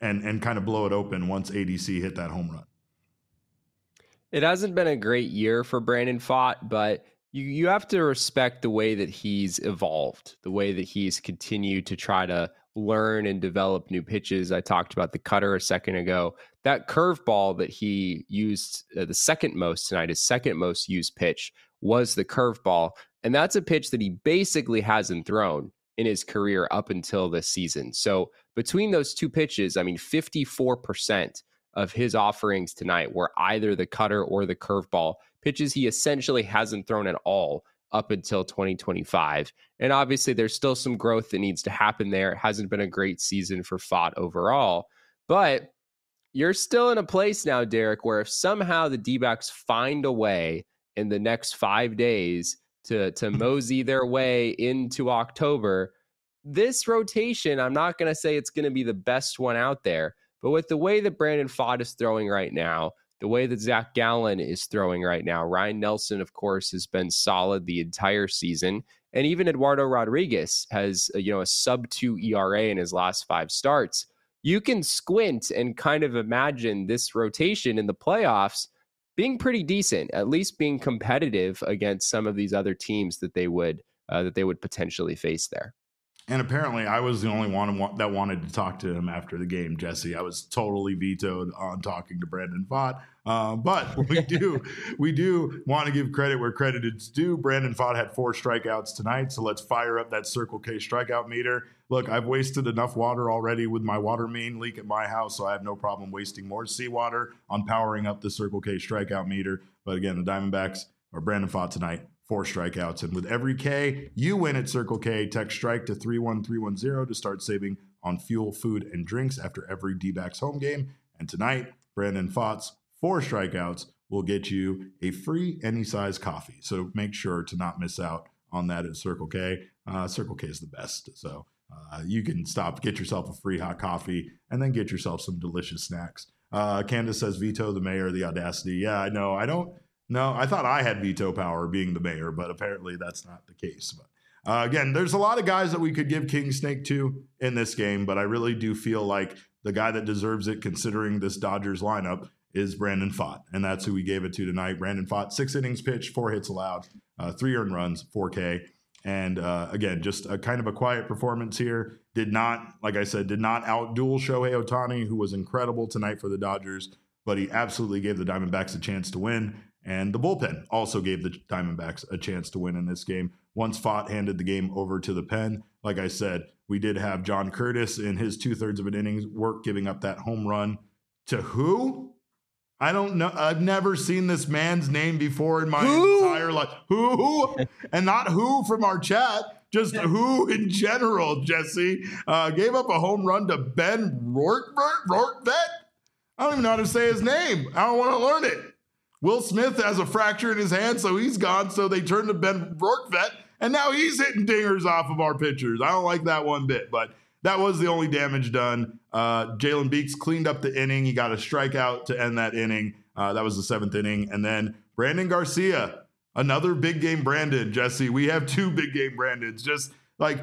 and kind of blow it open once ADC hit that home run. It hasn't been a great year for Brandon Pfaadt, but you have to respect the way that he's evolved, the way that he's continued to try to learn and develop new pitches. I talked about the cutter a second ago. That curveball that he used the second most tonight, his second most used pitch, was the curveball. And that's a pitch that he basically hasn't thrown in his career up until this season. So between those two pitches, I mean, 54% of his offerings tonight were either the cutter or the curveball, pitches he essentially hasn't thrown at all up until 2025. And obviously there's still some growth that needs to happen there. It hasn't been a great season for Pfaadt overall, but you're still in a place now, Derek, where if somehow the D-backs find a way in the next 5 days to mosey their way into October, this rotation, I'm not going to say it's going to be the best one out there, but with the way that Brandon Pfaadt is throwing right now, the way that Zach Gallen is throwing right now, Ryan Nelson, of course, has been solid the entire season. And even Eduardo Rodriguez has a sub-2 ERA in his last 5 starts. You can squint and kind of imagine this rotation in the playoffs being pretty decent, at least being competitive against some of these other teams that they would potentially face there. And apparently I was the only one that wanted to talk to him after the game, Jesse. I was totally vetoed on talking to Brandon Pfaadt. But we do want to give credit where credit is due. Brandon Pfaadt had 4 strikeouts tonight, so let's fire up that Circle K strikeout meter. Look, I've wasted enough water already with my water main leak at my house, so I have no problem wasting more seawater on powering up the Circle K strikeout meter. But again, the Diamondbacks or Brandon Pfaadt tonight, 4 strikeouts. And with every K you win at Circle K, text strike to 31310 to start saving on fuel, food, and drinks after every D-backs home game. And tonight, Brandon Pfaadt's 4 strikeouts will get you a free any size coffee. So make sure to not miss out on that at Circle K. Circle K is the best. So you can stop, get yourself a free hot coffee, and then get yourself some delicious snacks. Candace says, veto the mayor, the audacity. Yeah, I know. No, I thought I had veto power being the mayor, but apparently that's not the case. But again, there's a lot of guys that we could give King Snake to in this game, but I really do feel like the guy that deserves it, considering this Dodgers lineup, is Brandon Pfaadt, and that's who we gave it to tonight. Brandon Pfaadt, 6 innings pitched, 4 hits allowed, 3 earned runs, 4K. And again, just a kind of a quiet performance here. Did not outduel Shohei Ohtani, who was incredible tonight for the Dodgers, but he absolutely gave the Diamondbacks a chance to win. And the bullpen also gave the Diamondbacks a chance to win in this game. Once Pfaadt handed the game over to the pen, like I said, we did have John Curtis in his 2/3 of an innings work, giving up that home run to who? I don't know. I've never seen this man's name before in my entire life. Who? And not who from our chat, just who in general, Jesse. Gave up a home run to Ben Rortvedt? I don't even know how to say his name. I don't want to learn it. Will Smith has a fracture in his hand, so he's gone. So they turned to Ben Rortvedt, and now he's hitting dingers off of our pitchers. I don't like that one bit, but that was the only damage done. Jalen Beeks cleaned up the inning. He got a strikeout to end that inning. That was the 7th inning. And then Brandon Garcia, another big game Brandon, Jesse. We have 2 big game Brandons. Just like,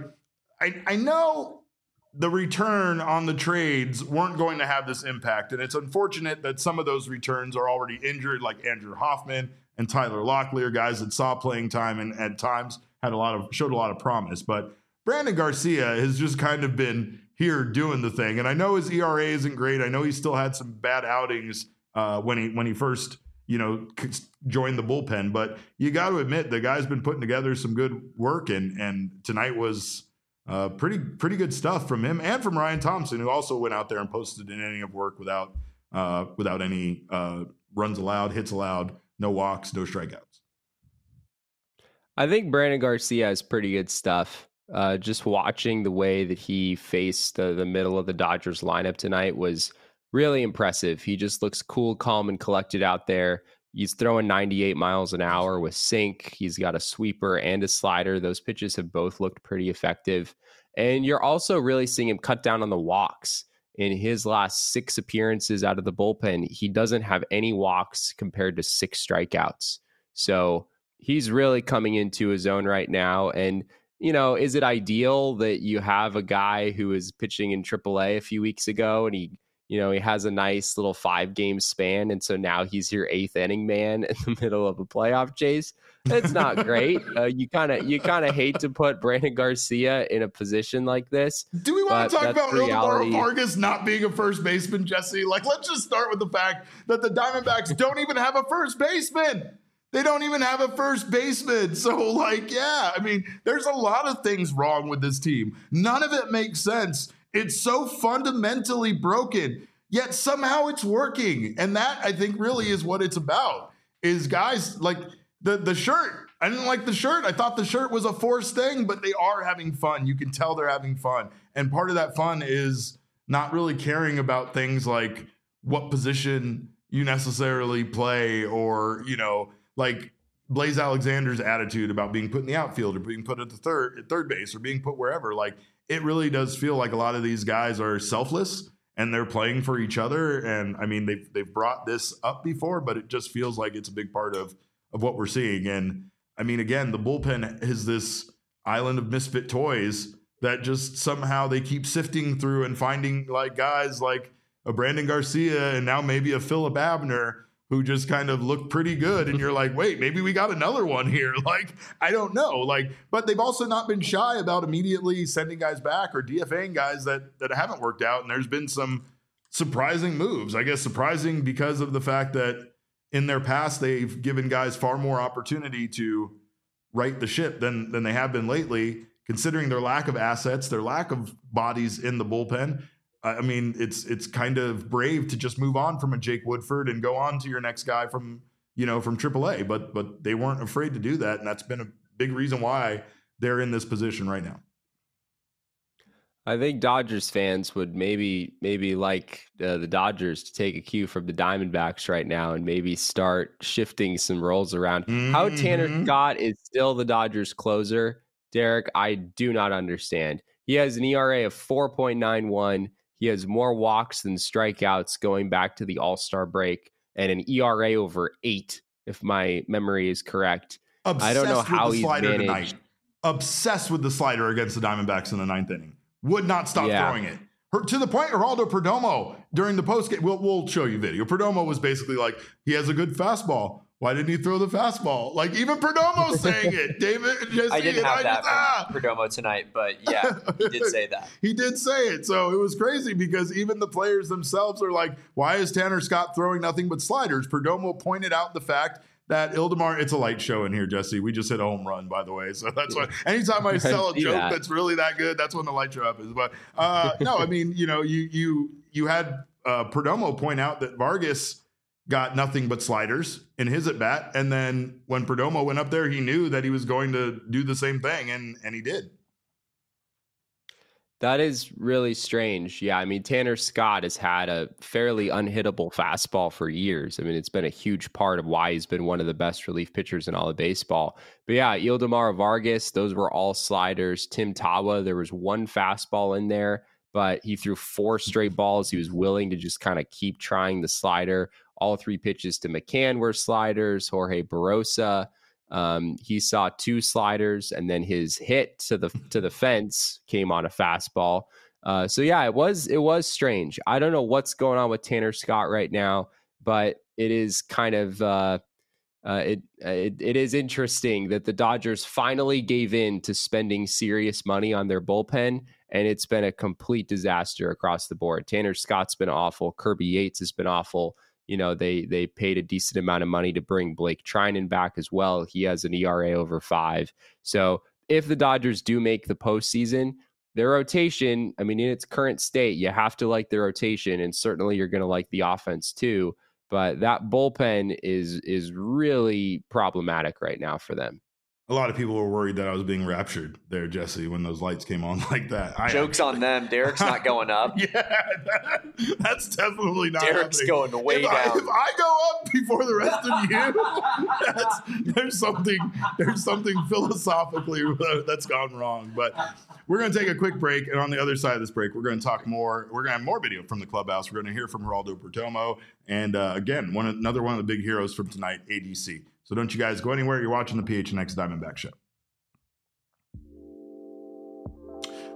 I know the return on the trades weren't going to have this impact. And it's unfortunate that some of those returns are already injured, like Andrew Hoffman and Tyler Locklear, guys that saw playing time and at times showed a lot of promise. But Brandon Garcia has just kind of been here doing the thing. And I know his ERA isn't great. I know he still had some bad outings when he first, joined the bullpen. But you got to admit, the guy's been putting together some good work. And tonight was pretty good stuff from him and from Ryan Thompson, who also went out there and posted an inning of work without any runs allowed, hits allowed, no walks, no strikeouts. I think Brandon Garcia has pretty good stuff. Just watching the way that he faced the middle of the Dodgers lineup tonight was really impressive. He just looks cool, calm, and collected out there. He's throwing 98 miles an hour with sink. He's got a sweeper and a slider. Those pitches have both looked pretty effective. And you're also really seeing him cut down on the walks. In his last 6 appearances out of the bullpen, he doesn't have any walks compared to 6 strikeouts. So he's really coming into his own right now. And, is it ideal that you have a guy who was pitching in AAA a few weeks ago and he you know, he has a nice little 5-game span. And so now he's your 8th inning man in the middle of a playoff chase. It's not great. You kind of hate to put Brandon Garcia in a position like this. Do we want to talk about Ildemaro Vargas not being a first baseman, Jesse? Like, let's just start with the fact that the Diamondbacks don't even have a first baseman. They don't even have a first baseman. So, like, yeah, I mean, there's a lot of things wrong with this team. None of it makes sense. It's so fundamentally broken, yet somehow it's working. And that, I think, really is what it's about, is guys like the shirt. I didn't like the shirt. I thought the shirt was a forced thing, but they are having fun. You can tell they're having fun. And part of that fun is not really caring about things like what position you necessarily play, or, you know, like Blaze Alexander's attitude about being put in the outfield or being put at third base or being put wherever. Like, it really does feel like a lot of these guys are selfless and they're playing for each other. And I mean, they've brought this up before, but it just feels like it's a big part of what we're seeing. And I mean, again, the bullpen is this island of misfit toys that just somehow they keep sifting through and finding like guys like a Brandon Garcia and now maybe a Phillip Abner who just kind of look pretty good. And you're like, wait, maybe we got another one here. Like, I don't know. Like, but they've also not been shy about immediately sending guys back or DFAing guys that haven't worked out. And there's been some surprising moves, I guess, surprising because of the fact that in their past, they've given guys far more opportunity to right the ship than they have been lately, considering their lack of assets, their lack of bodies in the bullpen. I mean, it's kind of brave to just move on from a Jake Woodford and go on to your next guy from AAA, but they weren't afraid to do that, and that's been a big reason why they're in this position right now. I think Dodgers fans would maybe like the Dodgers to take a cue from the Diamondbacks right now and maybe start shifting some roles around. Mm-hmm. How Tanner Scott is still the Dodgers closer, Derek, I do not understand. He has an ERA of 4.91. He has more walks than strikeouts going back to the All-Star break, and an ERA over 8, if my memory is correct. I don't know how he's managed. Tonight. Obsessed with the slider against the Diamondbacks in the 9th inning. Would not stop throwing it. To the point, Geraldo Perdomo, during the postgame, we'll show you video. Perdomo was basically like, he has a good fastball. Why didn't he throw the fastball? Like, even Perdomo's saying it. David, Jesse, I didn't have that from Perdomo tonight, but yeah, he did say that. He did say it. So it was crazy because even the players themselves are like, why is Tanner Scott throwing nothing but sliders? Perdomo pointed out the fact that Ildemaro, it's a light show in here, Jesse. We just hit a home run, by the way. So that's why anytime I sell a joke that's really that good, that's when the light show up is. But no, I mean, you know, you had Perdomo point out that Vargas got nothing but sliders in his at bat. And then when Perdomo went up there, he knew that he was going to do the same thing. And he did. That is really strange. Yeah. I mean, Tanner Scott has had a fairly unhittable fastball for years. I mean, it's been a huge part of why he's been one of the best relief pitchers in all of baseball. But yeah, Ildemaro Vargas, those were all sliders. Tim Tawa, there was one fastball in there, but he threw 4 straight balls. He was willing to just kind of keep trying the slider. All 3 pitches to McCann were sliders. Jorge Barosa, he saw 2 sliders, and then his hit to the fence came on a fastball. So yeah, it was strange. I don't know what's going on with Tanner Scott right now, but it is kind of it is interesting that the Dodgers finally gave in to spending serious money on their bullpen, and it's been a complete disaster across the board. Tanner Scott's been awful. Kirby Yates has been awful. You know, they paid a decent amount of money to bring Blake Trinan back as well. He has an ERA over 5. So if the Dodgers do make the postseason, their rotation, I mean, in its current state, you have to like the rotation, and certainly you're going to like the offense too. But that bullpen is really problematic right now for them. A lot of people were worried that I was being raptured there, Jesse, when those lights came on like that. Joke's on them. Derek's not going up. Yeah, that's definitely not Derek's happening. Going way down. If I go up before the rest of you, there's something philosophically that's gone wrong. But we're going to take a quick break, and on the other side of this break, we're going to talk more. We're going to have more video from the clubhouse. We're going to hear from Geraldo Perdomo, and again, another one of the big heroes from tonight, ADC. So don't you guys go anywhere. You're watching the PHNX Diamondback Show.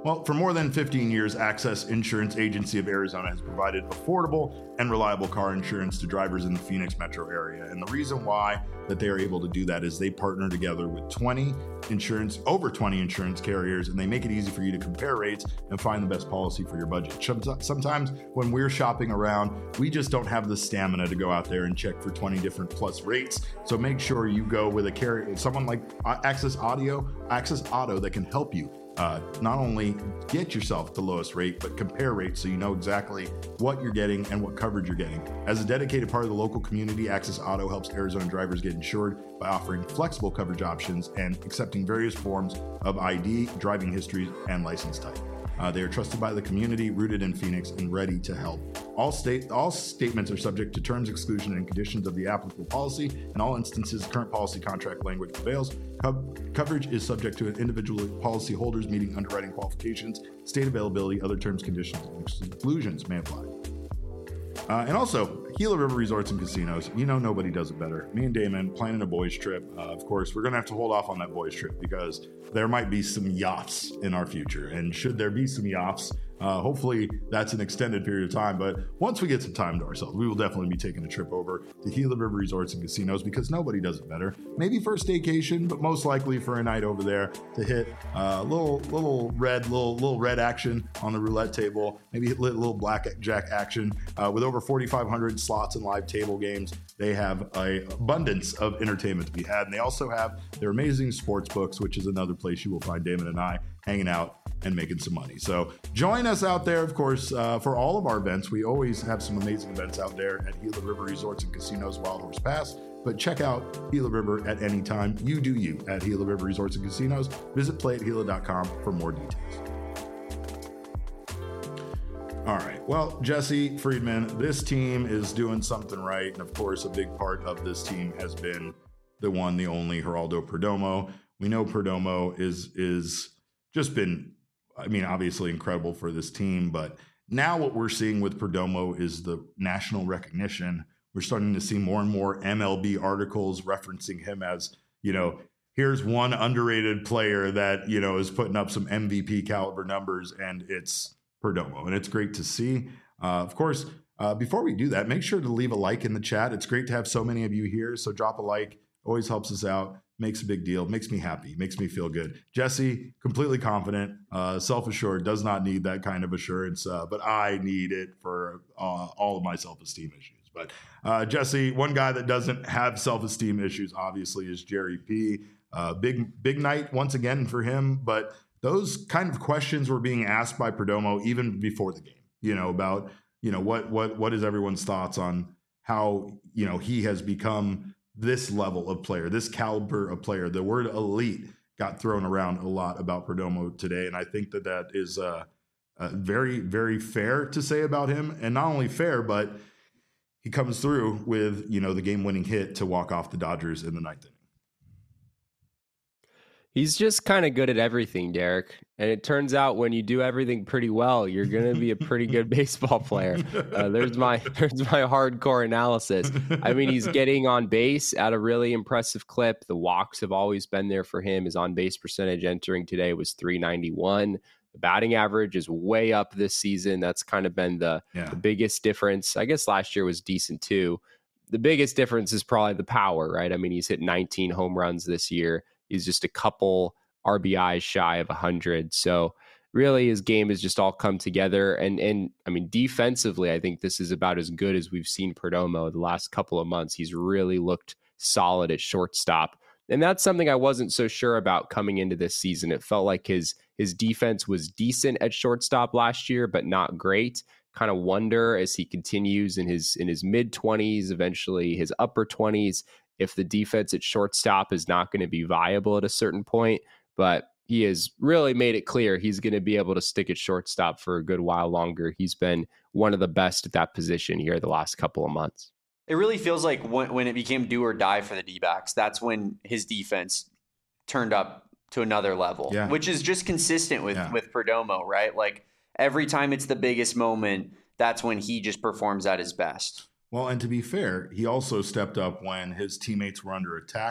Well, for more than 15 years, Access Insurance Agency of Arizona has provided affordable and reliable car insurance to drivers in the Phoenix metro area. And the reason why that they are able to do that is they partner together with over 20 insurance carriers, and they make it easy for you to compare rates and find the best policy for your budget. Sometimes when we're shopping around, we just don't have the stamina to go out there and check for 20 different plus rates. So make sure you go with a carrier, someone like Access Auto that can help you not only get yourself the lowest rate, but compare rates so you know exactly what you're getting and what coverage you're getting. As a dedicated part of the local community, Access Auto helps Arizona drivers get insured by offering flexible coverage options and accepting various forms of ID, driving history, and license type. They are trusted by the community, rooted in Phoenix, and ready to help. All statements are subject to terms, exclusion, and conditions of the applicable policy. In all instances, current policy contract language prevails. Coverage is subject to individual policy holders meeting underwriting qualifications, state availability, other terms, conditions, and exclusions may apply. And also, Gila River Resorts and Casinos. You know nobody does it better. Me and Damon planning a boys trip. Of course, we're going to have to hold off on that boys trip because there might be some yachts in our future. And should there be some yachts, hopefully that's an extended period of time. But once we get some time to ourselves, we will definitely be taking a trip over to Gila River Resorts and Casinos because nobody does it better. Maybe for a staycation, but most likely for a night over there to hit little red action on the roulette table, maybe hit little blackjack action with over 4,500 slots and live table games. They have an abundance of entertainment to be had, and they also have their amazing sports books, which is another place you will find Damon and I hanging out and making some money. So join us out there, of course, for all of our events. We always have some amazing events out there at Gila River Resorts and Casinos, Wild Horse Pass. But check out Gila River at any time. You do you at Gila River Resorts and Casinos. Visit playathegila.com for more details. All right. Well, Jesse Friedman, this team is doing something right. And of course, a big part of this team has been the one, the only Geraldo Perdomo. We know Perdomo is just been, I mean, obviously incredible for this team. But now what we're seeing with Perdomo is the national recognition. We're starting to see more and more MLB articles referencing him as, here's one underrated player that, is putting up some MVP caliber numbers, and it's Perdomo, and it's great to see. Of course, before we do that, make sure to leave a like in the chat. It's great to have so many of you here, so drop a like. Always helps us out, makes a big deal, makes me happy, makes me feel good. Jesse, completely confident, self-assured, does not need that kind of assurance, but I need it for all of my self-esteem issues. But Jesse, one guy that doesn't have self-esteem issues, obviously, is Jerry P. Big night once again for him, but those kind of questions were being asked by Perdomo even before the game, about, what is everyone's thoughts on how, he has become this level of player, this caliber of player. The word elite got thrown around a lot about Perdomo today. And I think that is very, very fair to say about him. And not only fair, but he comes through with, the game-winning hit to walk off the Dodgers in the ninth inning. He's just kind of good at everything, Derek. And it turns out when you do everything pretty well, you're going to be a pretty good baseball player. There's my hardcore analysis. I mean, he's getting on base at a really impressive clip. The walks have always been there for him. His on-base percentage entering today was .391. The batting average is way up this season. That's kind of been the biggest difference. I guess last year was decent too. The biggest difference is probably the power, right? I mean, he's hit 19 home runs this year. He's just a couple RBIs shy of 100. So really his game has just all come together. And I mean, defensively, I think this is about as good as we've seen Perdomo the last couple of months. He's really looked solid at shortstop. And that's something I wasn't so sure about coming into this season. It felt like his defense was decent at shortstop last year, but not great. Kind of wonder as he continues in his mid-20s, eventually his upper 20s, if the defense at shortstop is not going to be viable at a certain point. But he has really made it clear he's going to be able to stick at shortstop for a good while longer. He's been one of the best at that position here the last couple of months. It really feels like when it became do or die for the D-backs, that's when his defense turned up to another level, which is just consistent with Perdomo, right? Like every time it's the biggest moment, that's when he just performs at his best. Well, and to be fair, he also stepped up when his teammates were under attack.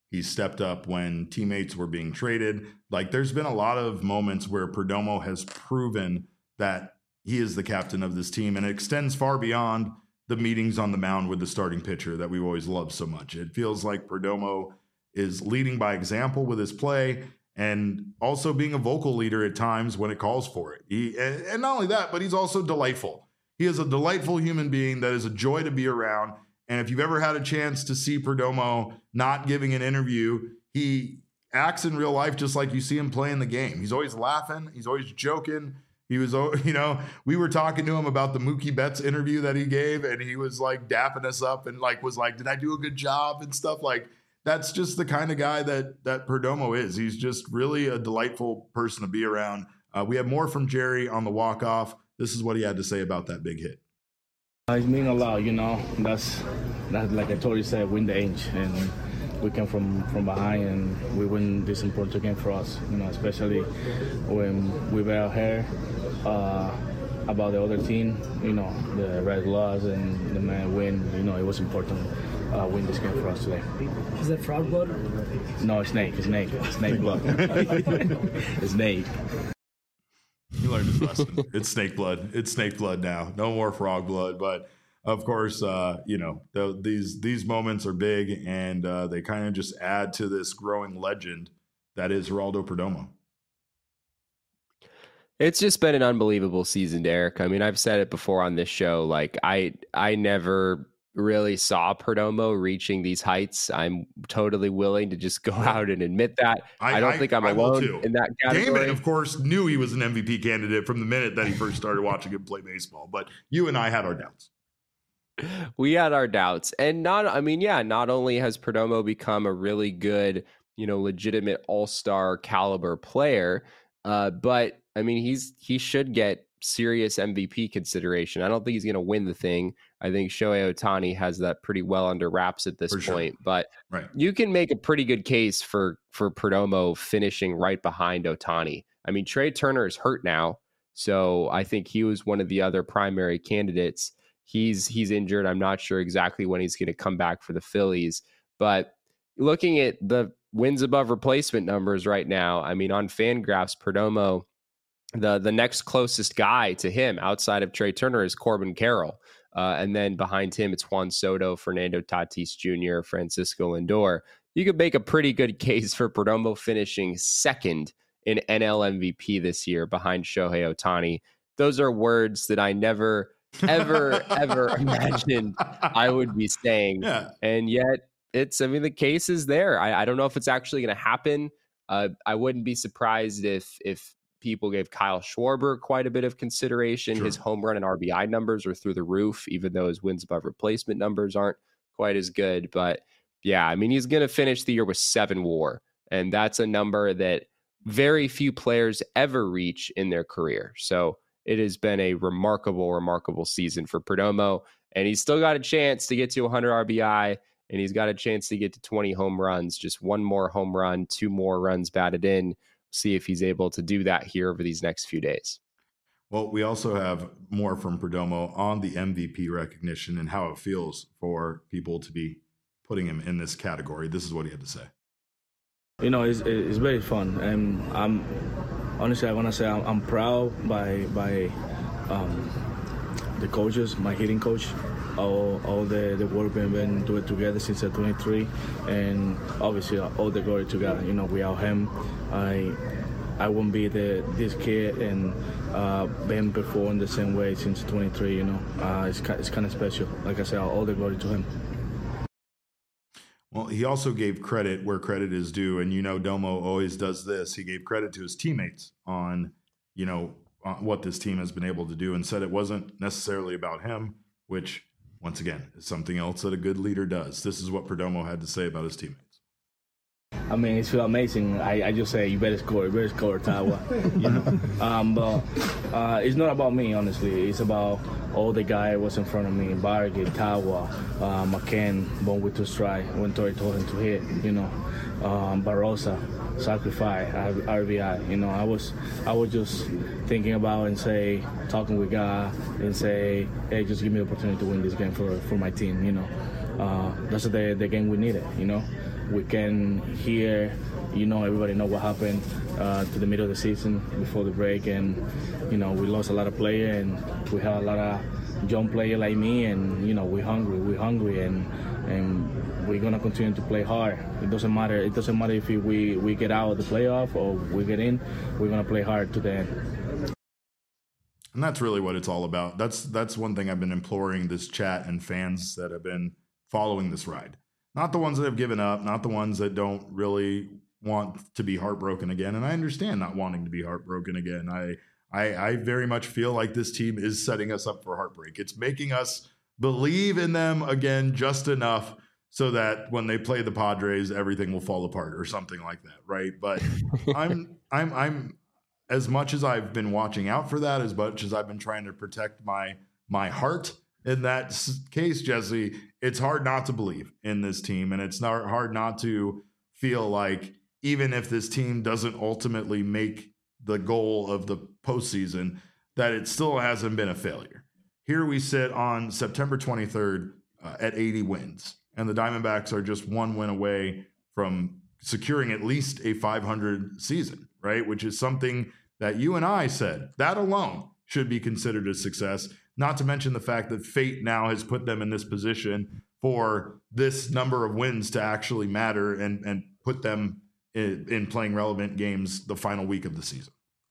He stepped up when teammates were being traded. Like, there's been a lot of moments where Perdomo has proven that he is the captain of this team, and it extends far beyond the meetings on the mound with the starting pitcher that we've always loved so much. It feels like Perdomo is leading by example with his play and also being a vocal leader at times when it calls for it. And not only that, but he's also delightful. He is a delightful human being that is a joy to be around. And if you've ever had a chance to see Perdomo not giving an interview, he acts in real life just like you see him playing the game. He's always laughing. He's always joking. He was, we were talking to him about the Mookie Betts interview that he gave, and he was like dapping us up and like was like, did I do a good job and stuff? Like, that's just the kind of guy that Perdomo is. He's just really a delightful person to be around. We have more from Jerry on the walk-off. This is what he had to say about that big hit. It means a lot, That's like I told you, said, win the inch, and we came from behind and we win this important game for us. Especially when we were out here about the other team. The Red lost and the man win. It was important. Win this game for us today. Is that frog blood? No, it's snake. It's snake blood. It's snake. You learned his lesson. It's snake blood. It's snake blood now. No more frog blood. But of course, these moments are big, and they kind of just add to this growing legend that is Geraldo Perdomo. It's just been an unbelievable season, Derek. I mean, I've said it before on this show. Like, I never really saw Perdomo reaching these heights. I'm totally willing to just go out and admit that. I don't think I'm alone in that category. Damon, of course, knew he was an MVP candidate from the minute that he first started watching him play baseball. But you and I had our doubts. We had our doubts. And not only has Perdomo become a really good, legitimate all-star caliber player, but I mean, he should get serious MVP consideration. I don't think he's going to win the thing. I think Shohei Ohtani has that pretty well under wraps at this point. Sure. But You can make a pretty good case for Perdomo finishing right behind Ohtani. I mean, Trey Turner is hurt now, so I think he was one of the other primary candidates. He's injured. I'm not sure exactly when he's going to come back for the Phillies. But looking at the wins above replacement numbers right now, I mean, on FanGraphs, Perdomo, the next closest guy to him outside of Trey Turner is Corbin Carroll. And then behind him, it's Juan Soto, Fernando Tatis Jr., Francisco Lindor. You could make a pretty good case for Perdomo finishing second in NL MVP this year behind Shohei Ohtani. Those are words that I never, ever, ever imagined I would be saying. Yeah. And yet, the case is there. I don't know if it's actually going to happen. I wouldn't be surprised if people gave Kyle Schwarber quite a bit of consideration. Sure. His home run and RBI numbers are through the roof, even though his wins above replacement numbers aren't quite as good. But yeah, I mean, he's going to finish the year with 7 WAR, and that's a number that very few players ever reach in their career. So it has been a remarkable, remarkable season for Perdomo, and he's still got a chance to get to 100 RBI, and he's got a chance to get to 20 home runs, just 1 more home run, 2 more runs batted in. See if he's able to do that here over these next few days. Well, we also have more from Perdomo on the MVP recognition and how it feels for people to be putting him in this category. This is what he had to say. It's very fun, and I'm honestly, I want to say I'm proud by the coaches, my hitting coach, all the work we've been doing together since 23, and obviously all the glory to God. Without him, I wouldn't be this kid and been performing the same way since 23. It's kind of special. Like I said, all the glory to him. Well, he also gave credit where credit is due, and Domo always does this. He gave credit to his teammates on what this team has been able to do, and said it wasn't necessarily about him, which once again is something else that a good leader does. This is what Perdomo had to say about his teammates. I mean, it's amazing. I just say, you better score, Tawa. But it's not about me, honestly. It's about all the guys was in front of me: Bargy, Tawa, McCann, born with 2 strikes when Tori told him to hit. Barossa, sacrifice, RBI. I was just thinking about and talking with God and say, hey, just give me the opportunity to win this game for my team. That's the game we needed. we can hear, everybody know what happened to the middle of the season before the break, and we lost a lot of players, and we have a lot of young players like me, and we're hungry, and we're gonna continue to play hard. It doesn't matter if we get out of the playoff or we get in. We're gonna play hard to the end. And that's really what it's all about. That's one thing I've been imploring this chat and fans that have been following this ride. Not the ones that have given up, not the ones that don't really want to be heartbroken again. And I understand not wanting to be heartbroken again. I very much feel like this team is setting us up for heartbreak. It's making us believe in them again just enough so that when they play the Padres, everything will fall apart or something like that, right? But I'm as much as I've been watching out for that, as much as I've been trying to protect my heart in that case, Jesse, it's hard not to believe in this team, and it's not hard not to feel like even if this team doesn't ultimately make the goal of the postseason, that it still hasn't been a failure. Here we sit on September 23rd at 80 wins, and the Diamondbacks are just one win away from securing at least a 500 season, right? Which is something that you and I said that alone should be considered a success, not to mention the fact that fate now has put them in this position for this number of wins to actually matter and put them in playing relevant games the final week of the season.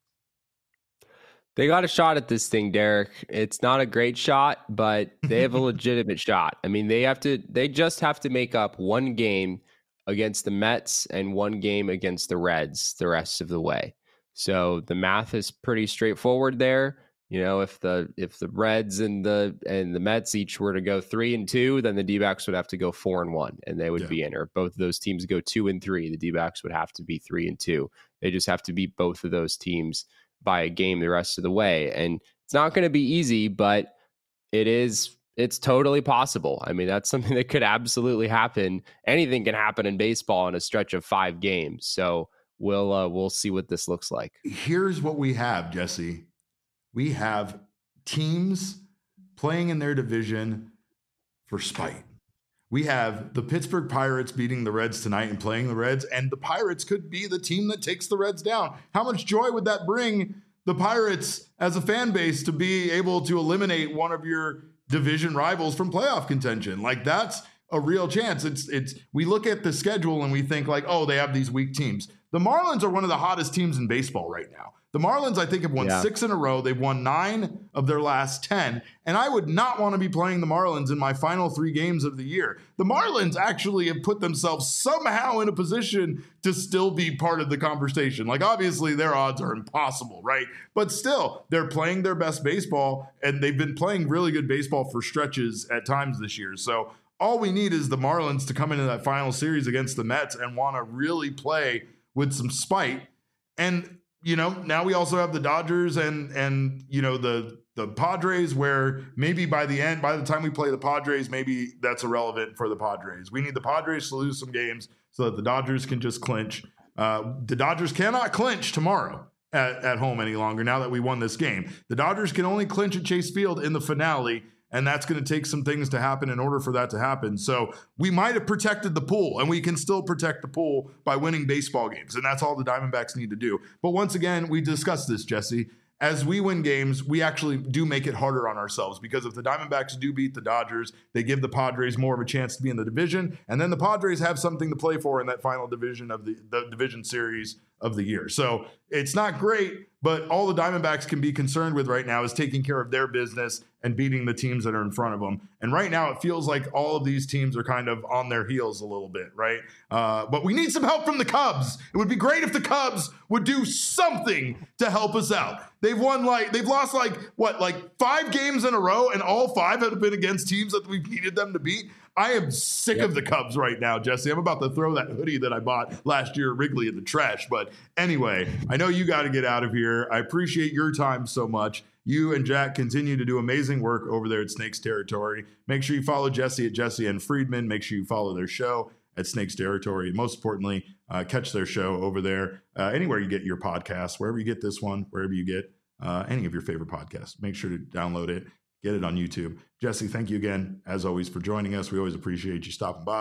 They got a shot at this thing, Derek. It's not a great shot, but they have a legitimate shot. I mean, they just have to make up one game against the Mets and one game against the Reds the rest of the way. So the math is pretty straightforward there. If the Reds and the Mets each were to go 3-2, then the D-backs would have to go 4-1, and they would be in. Or if both of those teams go 2-3, the D-backs would have to be 3-2. They just have to beat both of those teams by a game the rest of the way, and it's not going to be easy, but it's totally possible. I mean, that's something that could absolutely happen. Anything can happen in baseball in a stretch of 5 games. So we'll see what this looks like. Here's what we have, Jesse. We have teams playing in their division for spite. We have the Pittsburgh Pirates beating the Reds tonight and playing the Reds, and the Pirates could be the team that takes the Reds down. How much joy would that bring the Pirates as a fan base to be able to eliminate one of your division rivals from playoff contention? Like, that's a real chance. We look at the schedule and we think like, oh, they have these weak teams. The Marlins are one of the hottest teams in baseball right now. The Marlins, I think, have won 6 in a row. They've won 9 of their last 10. And I would not want to be playing the Marlins in my final 3 games of the year. The Marlins actually have put themselves somehow in a position to still be part of the conversation. Like, obviously, their odds are impossible, right? But still, they're playing their best baseball, and they've been playing really good baseball for stretches at times this year. So all we need is the Marlins to come into that final series against the Mets and want to really play with some spite. And now we also have the Dodgers and the Padres, where maybe by the time we play the Padres, maybe that's irrelevant for the Padres. We need the Padres to lose some games so that the Dodgers can just clinch. The Dodgers cannot clinch tomorrow at home any longer now that we won this game. The Dodgers can only clinch at Chase Field in the finale, and that's going to take some things to happen in order for that to happen. So we might have protected the pool, and we can still protect the pool by winning baseball games. And that's all the Diamondbacks need to do. But once again, we discussed this, Jesse. As we win games, we actually do make it harder on ourselves, because if the Diamondbacks do beat the Dodgers, they give the Padres more of a chance to be in the division. And then the Padres have something to play for in that final division of the division series of the year. So it's not great, but all the Diamondbacks can be concerned with right now is taking care of their business and beating the teams that are in front of them. And right now it feels like all of these teams are kind of on their heels a little bit, right? But we need some help from the Cubs. It would be great if the Cubs would do something to help us out. They've lost 5 games in a row, and all 5 have been against teams that we've needed them to beat. I am sick of the Cubs right now, Jesse. I'm about to throw that hoodie that I bought last year at Wrigley in the trash. But anyway, I know you got to get out of here. I appreciate your time so much. You and Jack continue to do amazing work over there at Snakes Territory. Make sure you follow Jesse at Jesse and Friedman. Make sure you follow their show at Snakes Territory. Most importantly, catch their show over there anywhere you get your podcasts, wherever you get this one, wherever you get any of your favorite podcasts. Make sure to download it. Get it on YouTube. Jesse, thank you again, as always, for joining us. We always appreciate you stopping by.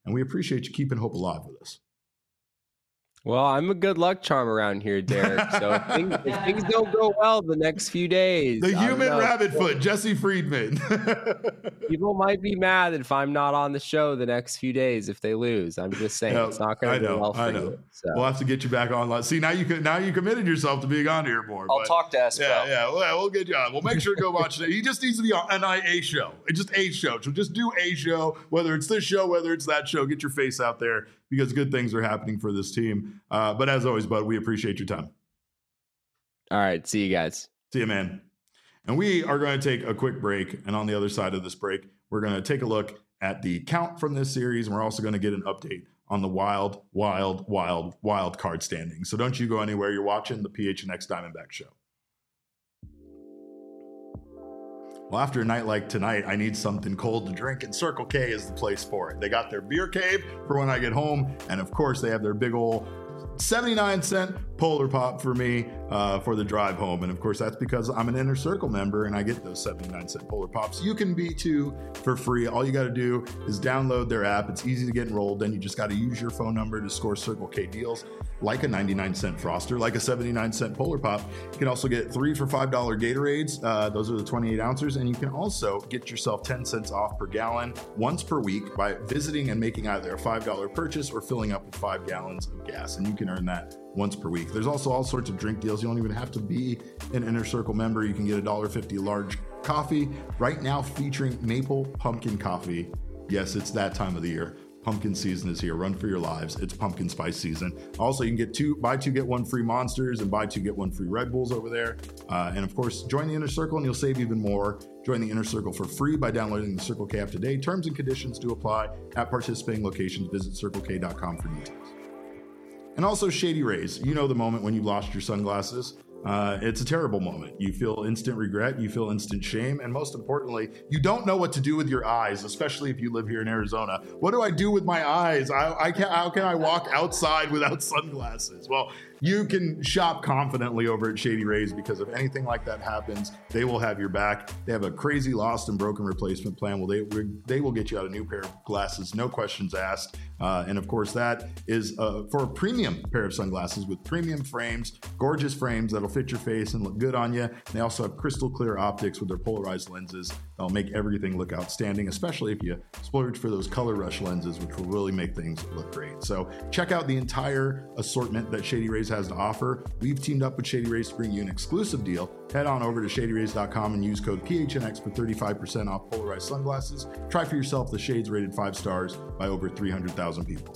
And we appreciate you keeping hope alive with us. Well, I'm a good luck charm around here, Derek. So if things don't go well the next few days, the human rabbit foot, Jesse Friedman. People might be mad if I'm not on the show the next few days if they lose. I'm just saying it's not going to go well for you. So. We'll have to get you back on. See, now you committed yourself to being on here more. I'll talk to Espo. Yeah, we'll get you on. We'll make sure to go watch it. He just needs to be on a show. It's just a show. So just do a show, whether it's this show, whether it's that show. Get your face out there because good things are happening for this team. But as always, bud, we appreciate your time. All right. See you guys. See you, man. And we are going to take a quick break. And on the other side of this break, we're going to take a look at the count from this series. And we're also going to get an update on the wild card standings. So don't you go anywhere. You're watching the PHNX Diamondback Show. Well, after a night like tonight, I need something cold to drink, and Circle K is the place for it. They got their beer cave for when I get home, and of course, they have their big old 79-cent Polar Pop for me for the drive home. And of course, that's because I'm an Inner Circle member and I get those 79-cent Polar Pops. You can be too for free. All you got to do is download their app. It's easy to get enrolled. Then you just got to use your phone number to score Circle K deals like a 99-cent Froster, like a 79-cent Polar Pop. You can also get 3 for $5 Gatorades. Those are the 28 ounces. And you can also get yourself 10 cents off per gallon once per week by visiting and making either a $5 purchase or filling up with 5 gallons of gas. And you can earn that once per week. There's also all sorts of drink deals. You don't even have to be an Inner Circle member. You can get $1.50 large coffee right now featuring maple pumpkin coffee. Yes, it's that time of the year. Pumpkin season is here. Run for your lives. It's pumpkin spice season. Also, you can get buy two, get one free Monsters and buy two, get one free Red Bulls over there. And of course, join the Inner Circle and you'll save even more. Join the Inner Circle for free by downloading the Circle K app today. Terms and conditions do apply at participating locations. Visit CircleK.com for details. And also Shady Rays. You know the moment when you lost your sunglasses. It's a terrible moment. You feel instant regret, you feel instant shame, and most importantly, you don't know what to do with your eyes, especially if you live here in Arizona. What do I do with my eyes? How can I walk outside without sunglasses? Well, you can shop confidently over at Shady Rays because if anything like that happens, they will have your back. They have a crazy lost and broken replacement plan. Well, they will get you out a new pair of glasses, no questions asked. And of course, that is for a premium pair of sunglasses with premium frames, gorgeous frames that'll fit your face and look good on you. They also have crystal clear optics with their polarized lenses. They'll make everything look outstanding, especially if you splurge for those color rush lenses, which will really make things look great. So check out the entire assortment that Shady Rays has to offer. We've teamed up with Shady Rays to bring you an exclusive deal. Head on over to shadyrays.com and use code PHNX for 35% off polarized sunglasses. Try for yourself the shades rated 5 stars by over 300,000 people.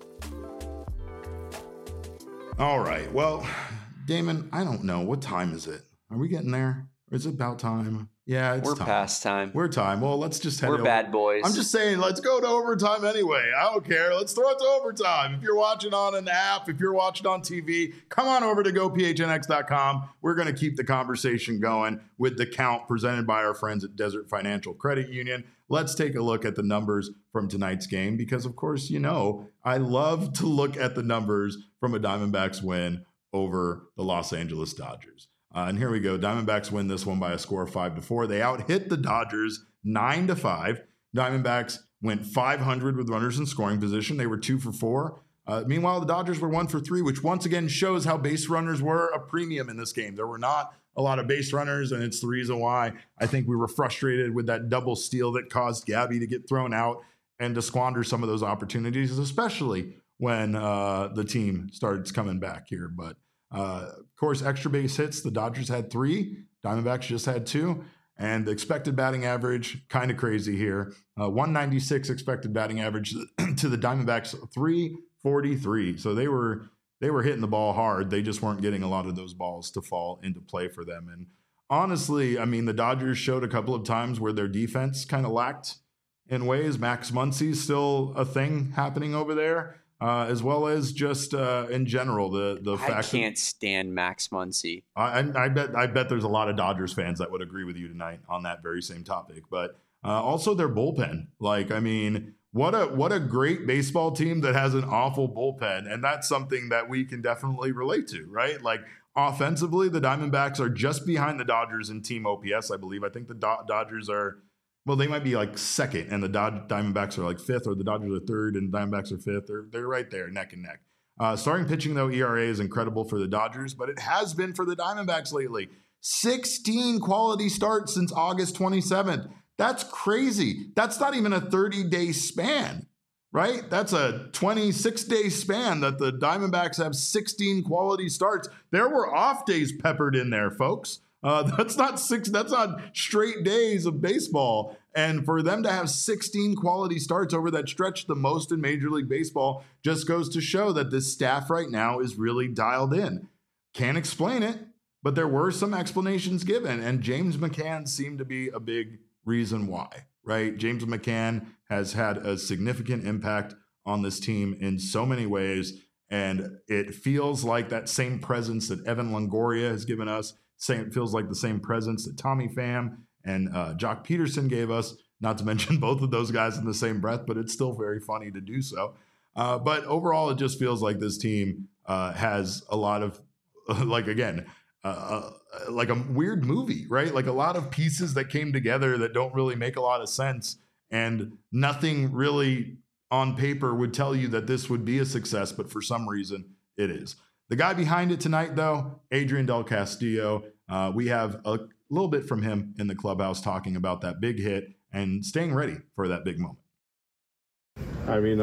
All right. Well, Damon, I don't know. What time is it? Are we getting there? Is it about time? Yeah, we're time. Past time. We're time. Well, let's just head over. Bad boys. I'm just saying, let's go to overtime anyway. I don't care. Let's throw it to overtime. If you're watching on an app, if you're watching on TV, come on over to gophnx.com. We're going to keep the conversation going with the count presented by our friends at Desert Financial Credit Union. Let's take a look at the numbers from tonight's game because, of course, you know, I love to look at the numbers from a Diamondbacks win over the Los Angeles Dodgers. And here we go. Diamondbacks win this one by a score of 5-4. They out-hit the Dodgers 9-5. Diamondbacks went 500 with runners in scoring position. They were 2 for 4. Meanwhile, the Dodgers were 1 for 3, which once again shows how base runners were a premium in this game. There were not a lot of base runners, and it's the reason why I think we were frustrated with that double steal that caused Gabby to get thrown out and to squander some of those opportunities, especially when the team starts coming back here. But of course, extra base hits, the Dodgers had 3, Diamondbacks just had 2, and the expected batting average, kind of crazy here. 196 expected batting average to the Diamondbacks, 343. So they were hitting the ball hard. They just weren't getting a lot of those balls to fall into play for them. And honestly, I mean, the Dodgers showed a couple of times where their defense kind of lacked in ways. Max Muncy's still a thing happening over there. As well as just in general, the fact I can't stand Max Muncy. I bet there's a lot of Dodgers fans that would agree with you tonight on that very same topic. But also their bullpen. Like, I mean, what a great baseball team that has an awful bullpen, and that's something that we can definitely relate to, right? Like offensively, the Diamondbacks are just behind the Dodgers in team OPS, I believe. I think the Dodgers are Well, they might be like second, and the Diamondbacks are like fifth, or the Dodgers are third, and the Diamondbacks are fifth. They're right there, neck and neck. Starting pitching, though, ERA is incredible for the Dodgers, but it has been for the Diamondbacks lately. 16 quality starts since August 27th. That's crazy. That's not even a 30-day span, right? That's a 26-day span that the Diamondbacks have 16 quality starts. There were off days peppered in there, folks. That's not straight days of baseball. And for them to have 16 quality starts over that stretch, the most in Major League Baseball, just goes to show that this staff right now is really dialed in. Can't explain it, but there were some explanations given, and James McCann seemed to be a big reason why, right? James McCann has had a significant impact on this team in so many ways, and it feels like that same presence that Evan Longoria has given us, it feels like the same presence that Tommy Pham and Jock Peterson gave us, not to mention both of those guys in the same breath, but it's still very funny to do so. But overall, it just feels like this team has a lot of, like a weird movie, right? Like a lot of pieces that came together that don't really make a lot of sense, and nothing really on paper would tell you that this would be a success, but for some reason it is. The guy behind it tonight, though, Adrian Del Castillo, we have a little bit from him in the clubhouse talking about that big hit and staying ready for that big moment. I mean,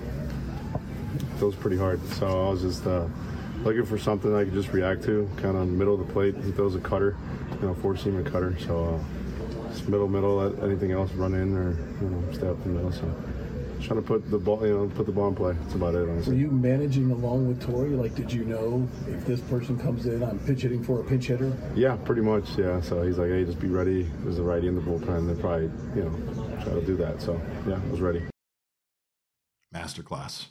it was pretty hard, so I was just looking for something I could just react to, kind of in the middle of the plate. He throws a cutter, four-seamer cutter, so just middle, let anything else run in or, stay up the middle, so. Trying to put the ball, put the ball in play. That's about it, honestly. Were you managing along with Torey? Like, did you know if this person comes in, I'm pitch hitting for a pinch hitter? Yeah, pretty much, yeah. So he's like, hey, just be ready. There's a righty in the bullpen. They'll probably, try to do that. So, yeah, I was ready. Masterclass,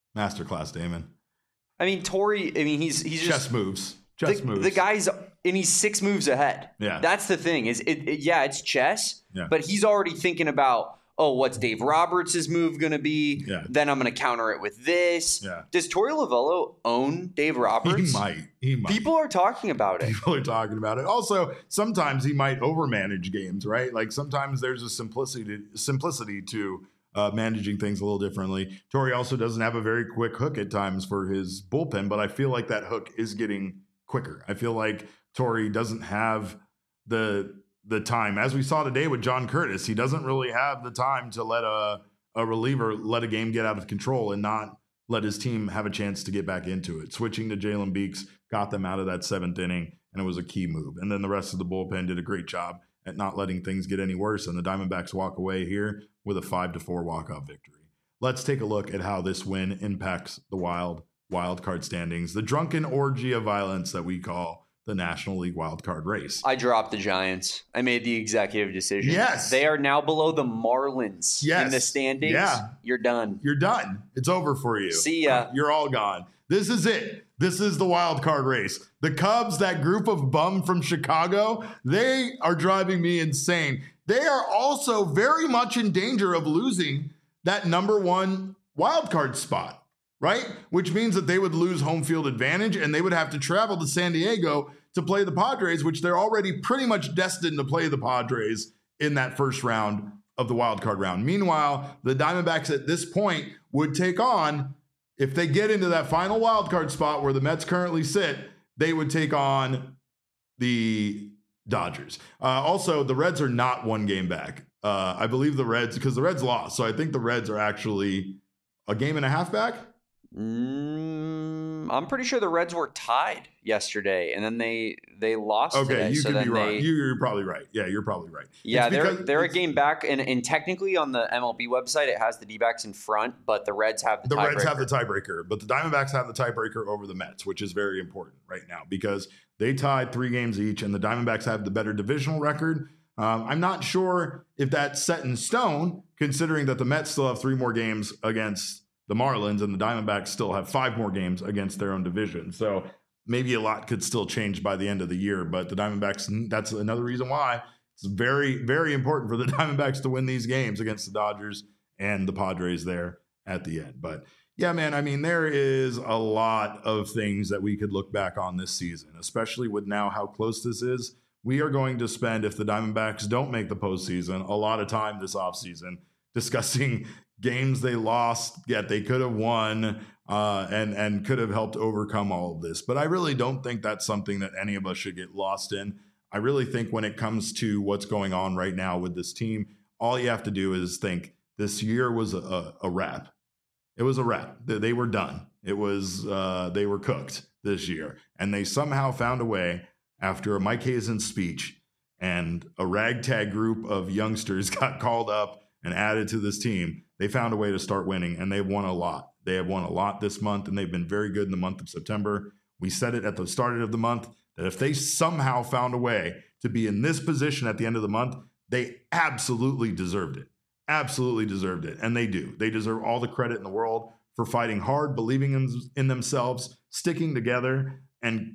Damon. I mean, Torey, he's just... Chess moves. The guy's... And he's 6 moves ahead. Yeah. That's the thing. It's chess, yeah. But he's already thinking about, what's Dave Roberts' move going to be? Yeah. Then I'm going to counter it with this. Yeah. Does Torey Lovullo own Dave Roberts? He might. People are talking about it. Also, sometimes he might overmanage games, right? Like sometimes there's a simplicity to managing things a little differently. Torey also doesn't have a very quick hook at times for his bullpen, but I feel like that hook is getting quicker. I feel like Torey doesn't have the time, as we saw today with John Curtis. He doesn't really have the time to let a reliever let a game get out of control and not let his team have a chance to get back into it. Switching to Jalen Beeks got them out of that 7th inning, and it was a key move. And then the rest of the bullpen did a great job at not letting things get any worse, and the Diamondbacks walk away here with a 5-4 walk-off victory. Let's take a look at how this win impacts the wild card standings, the drunken orgy of violence that we call the National League wildcard race. I dropped the Giants. I made the executive decision. Yes. They are now below the Marlins in the standings. Yeah. You're done. It's over for you. See ya. You're all gone. This is it. This is the wild card race. The Cubs, that group of bum from Chicago, they are driving me insane. They are also very much in danger of losing that number 1 wild card spot. Right? Which means that they would lose home field advantage and they would have to travel to San Diego to play the Padres, which they're already pretty much destined to play the Padres in that first round of the wild card round. Meanwhile, the Diamondbacks at this point would take on, if they get into that final wild card spot where the Mets currently sit, they would take on the Dodgers. Also, the Reds are not 1 game back. I believe the Reds, because the Reds lost. So I think the Reds are actually a game and a half back. I'm pretty sure the Reds were tied yesterday, and then they lost. Okay, today, you could be right. You're probably right. Yeah, you're probably right. Yeah, they're a game back, and technically on the MLB website it has the D-backs in front, but the Reds have the tiebreaker. Reds have the tiebreaker, but the Diamondbacks have the tiebreaker over the Mets, which is very important right now because they tied 3 games each, and the Diamondbacks have the better divisional record. I'm not sure if that's set in stone, considering that the Mets still have 3 more games against the Marlins, and the Diamondbacks still have 5 more games against their own division. So maybe a lot could still change by the end of the year, but the Diamondbacks, that's another reason why it's very, very important for the Diamondbacks to win these games against the Dodgers and the Padres there at the end. But yeah, man, I mean, there is a lot of things that we could look back on this season, especially with now how close this is we are going to spend, if the Diamondbacks don't make the postseason, a lot of time this offseason discussing games they lost, yet they could have won, and could have helped overcome all of this. But I really don't think that's something that any of us should get lost in. I really think when it comes to what's going on right now with this team, all you have to do is think this year was a wrap. It was a wrap. They were done. It was they were cooked this year. And they somehow found a way, after a Mike Hazen speech and a ragtag group of youngsters got called up and added to this team, they found a way to start winning, and they've won a lot. They have won a lot this month, and they've been very good in the month of September. We said it at the start of the month that if they somehow found a way to be in this position at the end of the month, they absolutely deserved it. Absolutely deserved it. And they do. They deserve all the credit in the world for fighting hard, believing in themselves, sticking together, and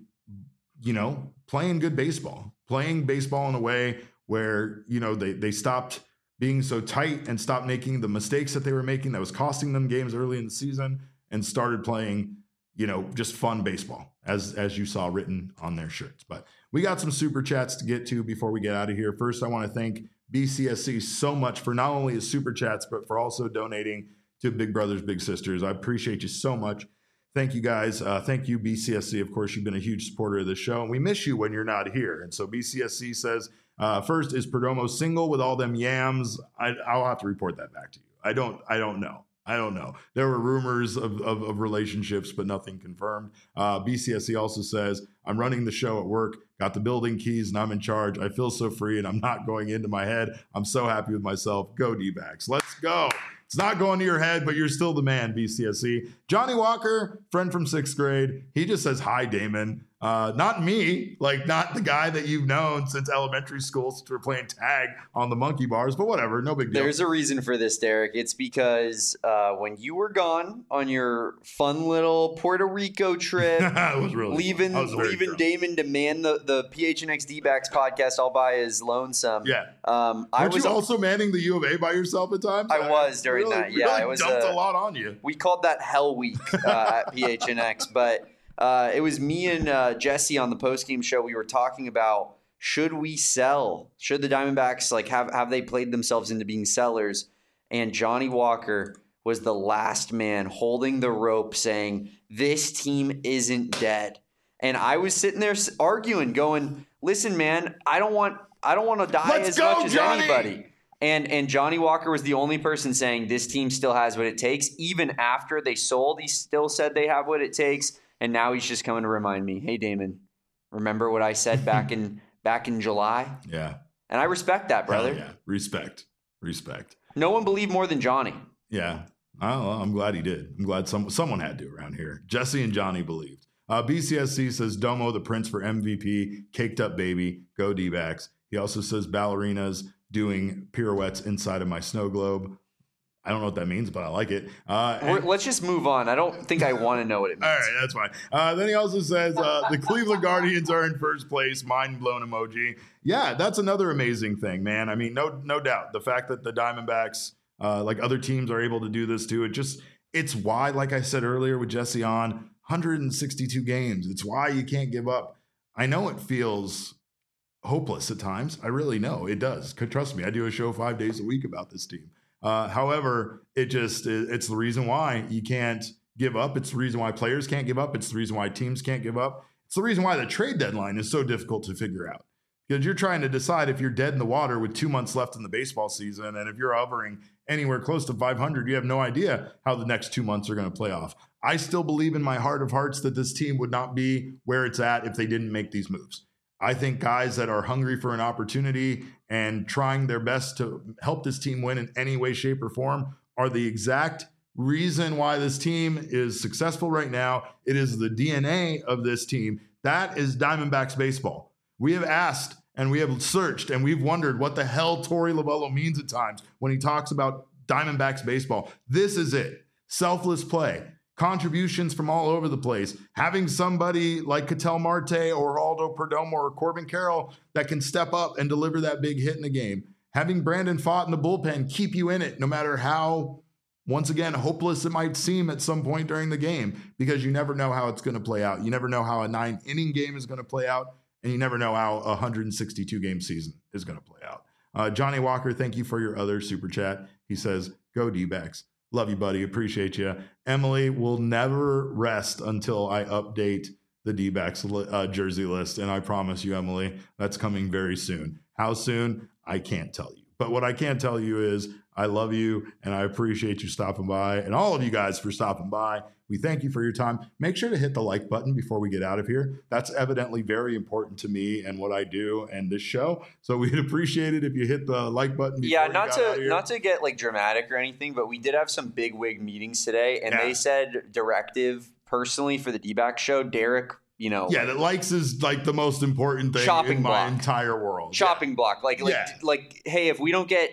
playing good baseball. Playing baseball in a way where, they stopped being so tight and stopped making the mistakes that they were making that was costing them games early in the season, and started playing, just fun baseball, as you saw written on their shirts. But we got some super chats to get to before we get out of here. First, I want to thank BCSC so much for not only his super chats, but for also donating to Big Brothers Big Sisters. I appreciate you so much. Thank you, guys. Thank you, BCSC. Of course, you've been a huge supporter of this show, and we miss you when you're not here. And so BCSC says, first, is Perdomo single with all them yams? I'll have to report that back to you. I don't know. I don't know. There were rumors of relationships, but nothing confirmed. BCSC also says, I'm running the show at work, got the building keys, and I'm in charge. I feel so free, and I'm not going into my head. I'm so happy with myself. Go D-backs. Let's go. It's not going to your head, but you're still the man, BCSC. Johnny Walker, friend from 6th grade. He just says, hi, Damon. Not me, not the guy that you've known since elementary school, since we're playing tag on the monkey bars, but whatever, no big deal. There's a reason for this, Derek. It's because when you were gone on your fun little Puerto Rico trip, it was really leaving Damon to man the PHNX D-backs podcast all by his lonesome. Yeah. I was also manning the U of A by yourself at times? I was during that. Yeah, I was dumped a lot on you. We called that Hell Week at PHNX, but it was me and Jesse on the postgame show. We were talking about, should we sell? Should the Diamondbacks have they played themselves into being sellers? And Johnny Walker was the last man holding the rope, saying this team isn't dead. And I was sitting there arguing, going, "Listen, man, I don't want to die much as anybody." And Johnny Walker was the only person saying this team still has what it takes. Even after they sold, he still said they have what it takes. And now he's just coming to remind me, hey, Damon, remember what I said back in July? Yeah. And I respect that, brother. Hell yeah. Respect. No one believed more than Johnny. Yeah. I'm glad he did. I'm glad someone had to around here. Jesse and Johnny believed. BCSC says Domo the Prince for MVP, caked up baby, go D-backs. He also says ballerinas doing pirouettes inside of my snow globe. I don't know what that means, but I like it. Let's just move on. I don't think I want to know what it means. All right, that's fine. Then he also says the Cleveland Guardians are in first place, mind blown emoji. Yeah, that's another amazing thing, man. I mean, no doubt. The fact that the Diamondbacks, like other teams, are able to do this too, it's why, like I said earlier with Jesse on, 162 games. It's why you can't give up. I know it feels hopeless at times. I really know it does. Trust me, I do a show 5 days a week about this team. However, it's the reason why you can't give up. It's the reason why players can't give up. It's the reason why teams can't give up. It's the reason why the trade deadline is so difficult to figure out, because you're trying to decide if you're dead in the water with 2 months left in the baseball season. And if you're hovering anywhere close to 500, you have no idea how the next 2 months are going to play off. I still believe in my heart of hearts that this team would not be where it's at if they didn't make these moves. I think guys that are hungry for an opportunity and trying their best to help this team win in any way, shape, or form are the exact reason why this team is successful right now. It is the DNA of this team. That is Diamondbacks baseball. We have asked and we have searched and we've wondered what the hell Torey Lovullo means at times when he talks about Diamondbacks baseball. This is it. Selfless play. Contributions from all over the place. Having somebody like Ketel Marte or Aldo Perdomo or Corbin Carroll that can step up and deliver that big hit in the game. Having Brandon Pfaadt in the bullpen keep you in it no matter how, once again, hopeless it might seem at some point during the game, because you never know how it's going to play out. You never know how a 9-inning game is going to play out. and you never know how a 162 game season is going to play out. Johnny Walker, thank you for your other super chat. He says, go D-backs. Love you, buddy. Appreciate you. Emily will never rest until I update the D-backs jersey list. And I promise you, Emily, that's coming very soon. How soon? I can't tell you. But what I can tell you is I love you and I appreciate you stopping by, and all of you guys for stopping by. We thank you for your time. Make sure to hit the like button before we get out of here. That's evidently very important to me and what I do and this show. So we'd appreciate it if you hit the like button. Yeah, not to get like dramatic or anything, but we did have some big wig meetings today, and they said directive personally for the D-back show, Derek. That likes is like the most important thing in my entire world. Chopping block. Like, hey, if we don't get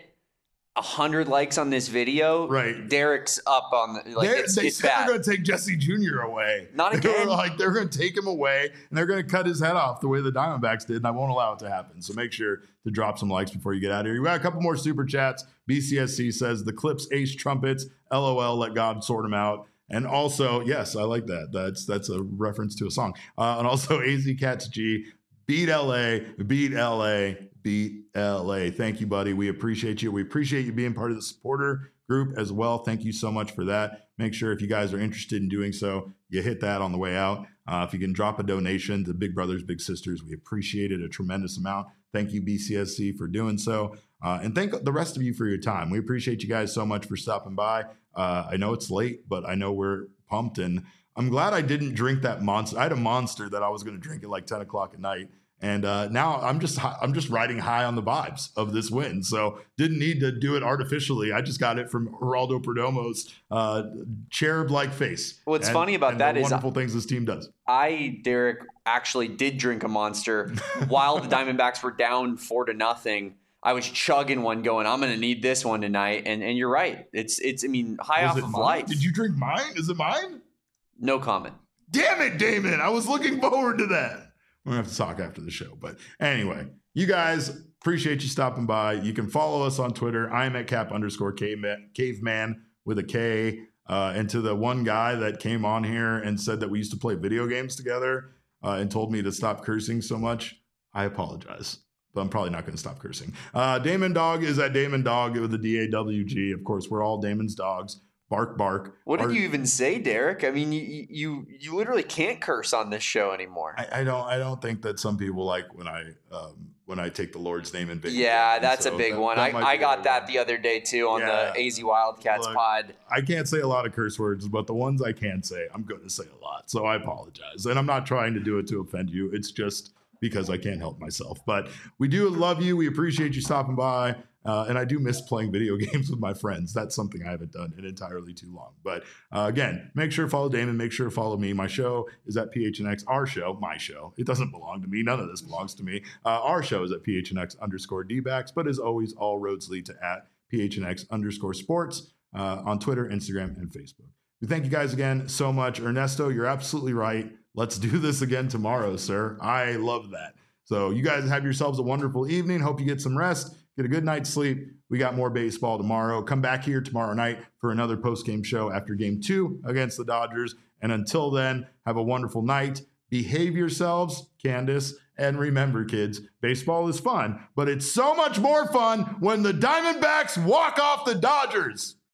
100 likes on this video, right? Derek's up on the they said bad. They're going to take Jesse Jr. away. Not again. They're going to take him away and they're going to cut his head off the way the Diamondbacks did, and I won't allow it to happen. So make sure to drop some likes before you get out of here. We got a couple more super chats. BCSC says the Clips ace trumpets. LOL, let God sort them out. And also, yes, I like that. That's a reference to a song. And also, AZ Cats G, beat LA, beat LA, beat LA. Thank you, buddy. We appreciate you. We appreciate you being part of the supporter group as well. Thank you so much for that. Make sure if you guys are interested in doing so, you hit that on the way out. If you can drop a donation to Big Brothers, Big Sisters, we appreciate it a tremendous amount. Thank you, BCSC, for doing so. And thank the rest of you for your time. We appreciate you guys so much for stopping by. I know it's late, but I know we're pumped, and I'm glad I didn't drink that monster. I had a monster that I was going to drink at like 10 o'clock at night, and now I'm just riding high on the vibes of this win. So didn't need to do it artificially. I just got it from Geraldo Perdomo's cherub-like face. What's funny about that is wonderful things this team does. Derek, actually did drink a monster while the Diamondbacks were down 4-0. I was chugging one going, I'm going to need this one tonight. And you're right. It's high off of life. Did you drink mine? Is it mine? No comment. Damn it, Damon. I was looking forward to that. We're going to have to talk after the show. But anyway, you guys, appreciate you stopping by. You can follow us on Twitter. I'm at Cap_caveman with a K. And to the one guy that came on here and said that we used to play video games together and told me to stop cursing so much, I apologize. But I'm probably not going to stop cursing. Damon Dog is at Damon Dog with the DAWG. Of course, we're all Damon's dogs. Bark, bark. What did you even say, Derek? I mean, you literally can't curse on this show anymore. I don't think that some people like when I take the Lord's name in vain. Yeah, that's a big one. I got that the other day too on the AZ Wildcats pod. I can't say a lot of curse words, but the ones I can say, I'm going to say a lot. So I apologize. And I'm not trying to do it to offend you. It's just because I can't help myself. But we do love you. We appreciate you stopping by. And I do miss playing video games with my friends. That's something I haven't done in entirely too long. But again, make sure to follow Damon. Make sure to follow me. My show is at PHNX. Our show, my show. It doesn't belong to me. None of this belongs to me. Our show is at PHNX_DBacks. But as always, all roads lead to at PHNX_sports on Twitter, Instagram, and Facebook. We thank you guys again so much. Ernesto, you're absolutely right. Let's do this again tomorrow, sir. I love that. So you guys have yourselves a wonderful evening. Hope you get some rest. Get a good night's sleep. We got more baseball tomorrow. Come back here tomorrow night for another post-game show after Game 2 against the Dodgers. And until then, have a wonderful night. Behave yourselves, Candace. And remember, kids, baseball is fun, but it's so much more fun when the Diamondbacks walk off the Dodgers.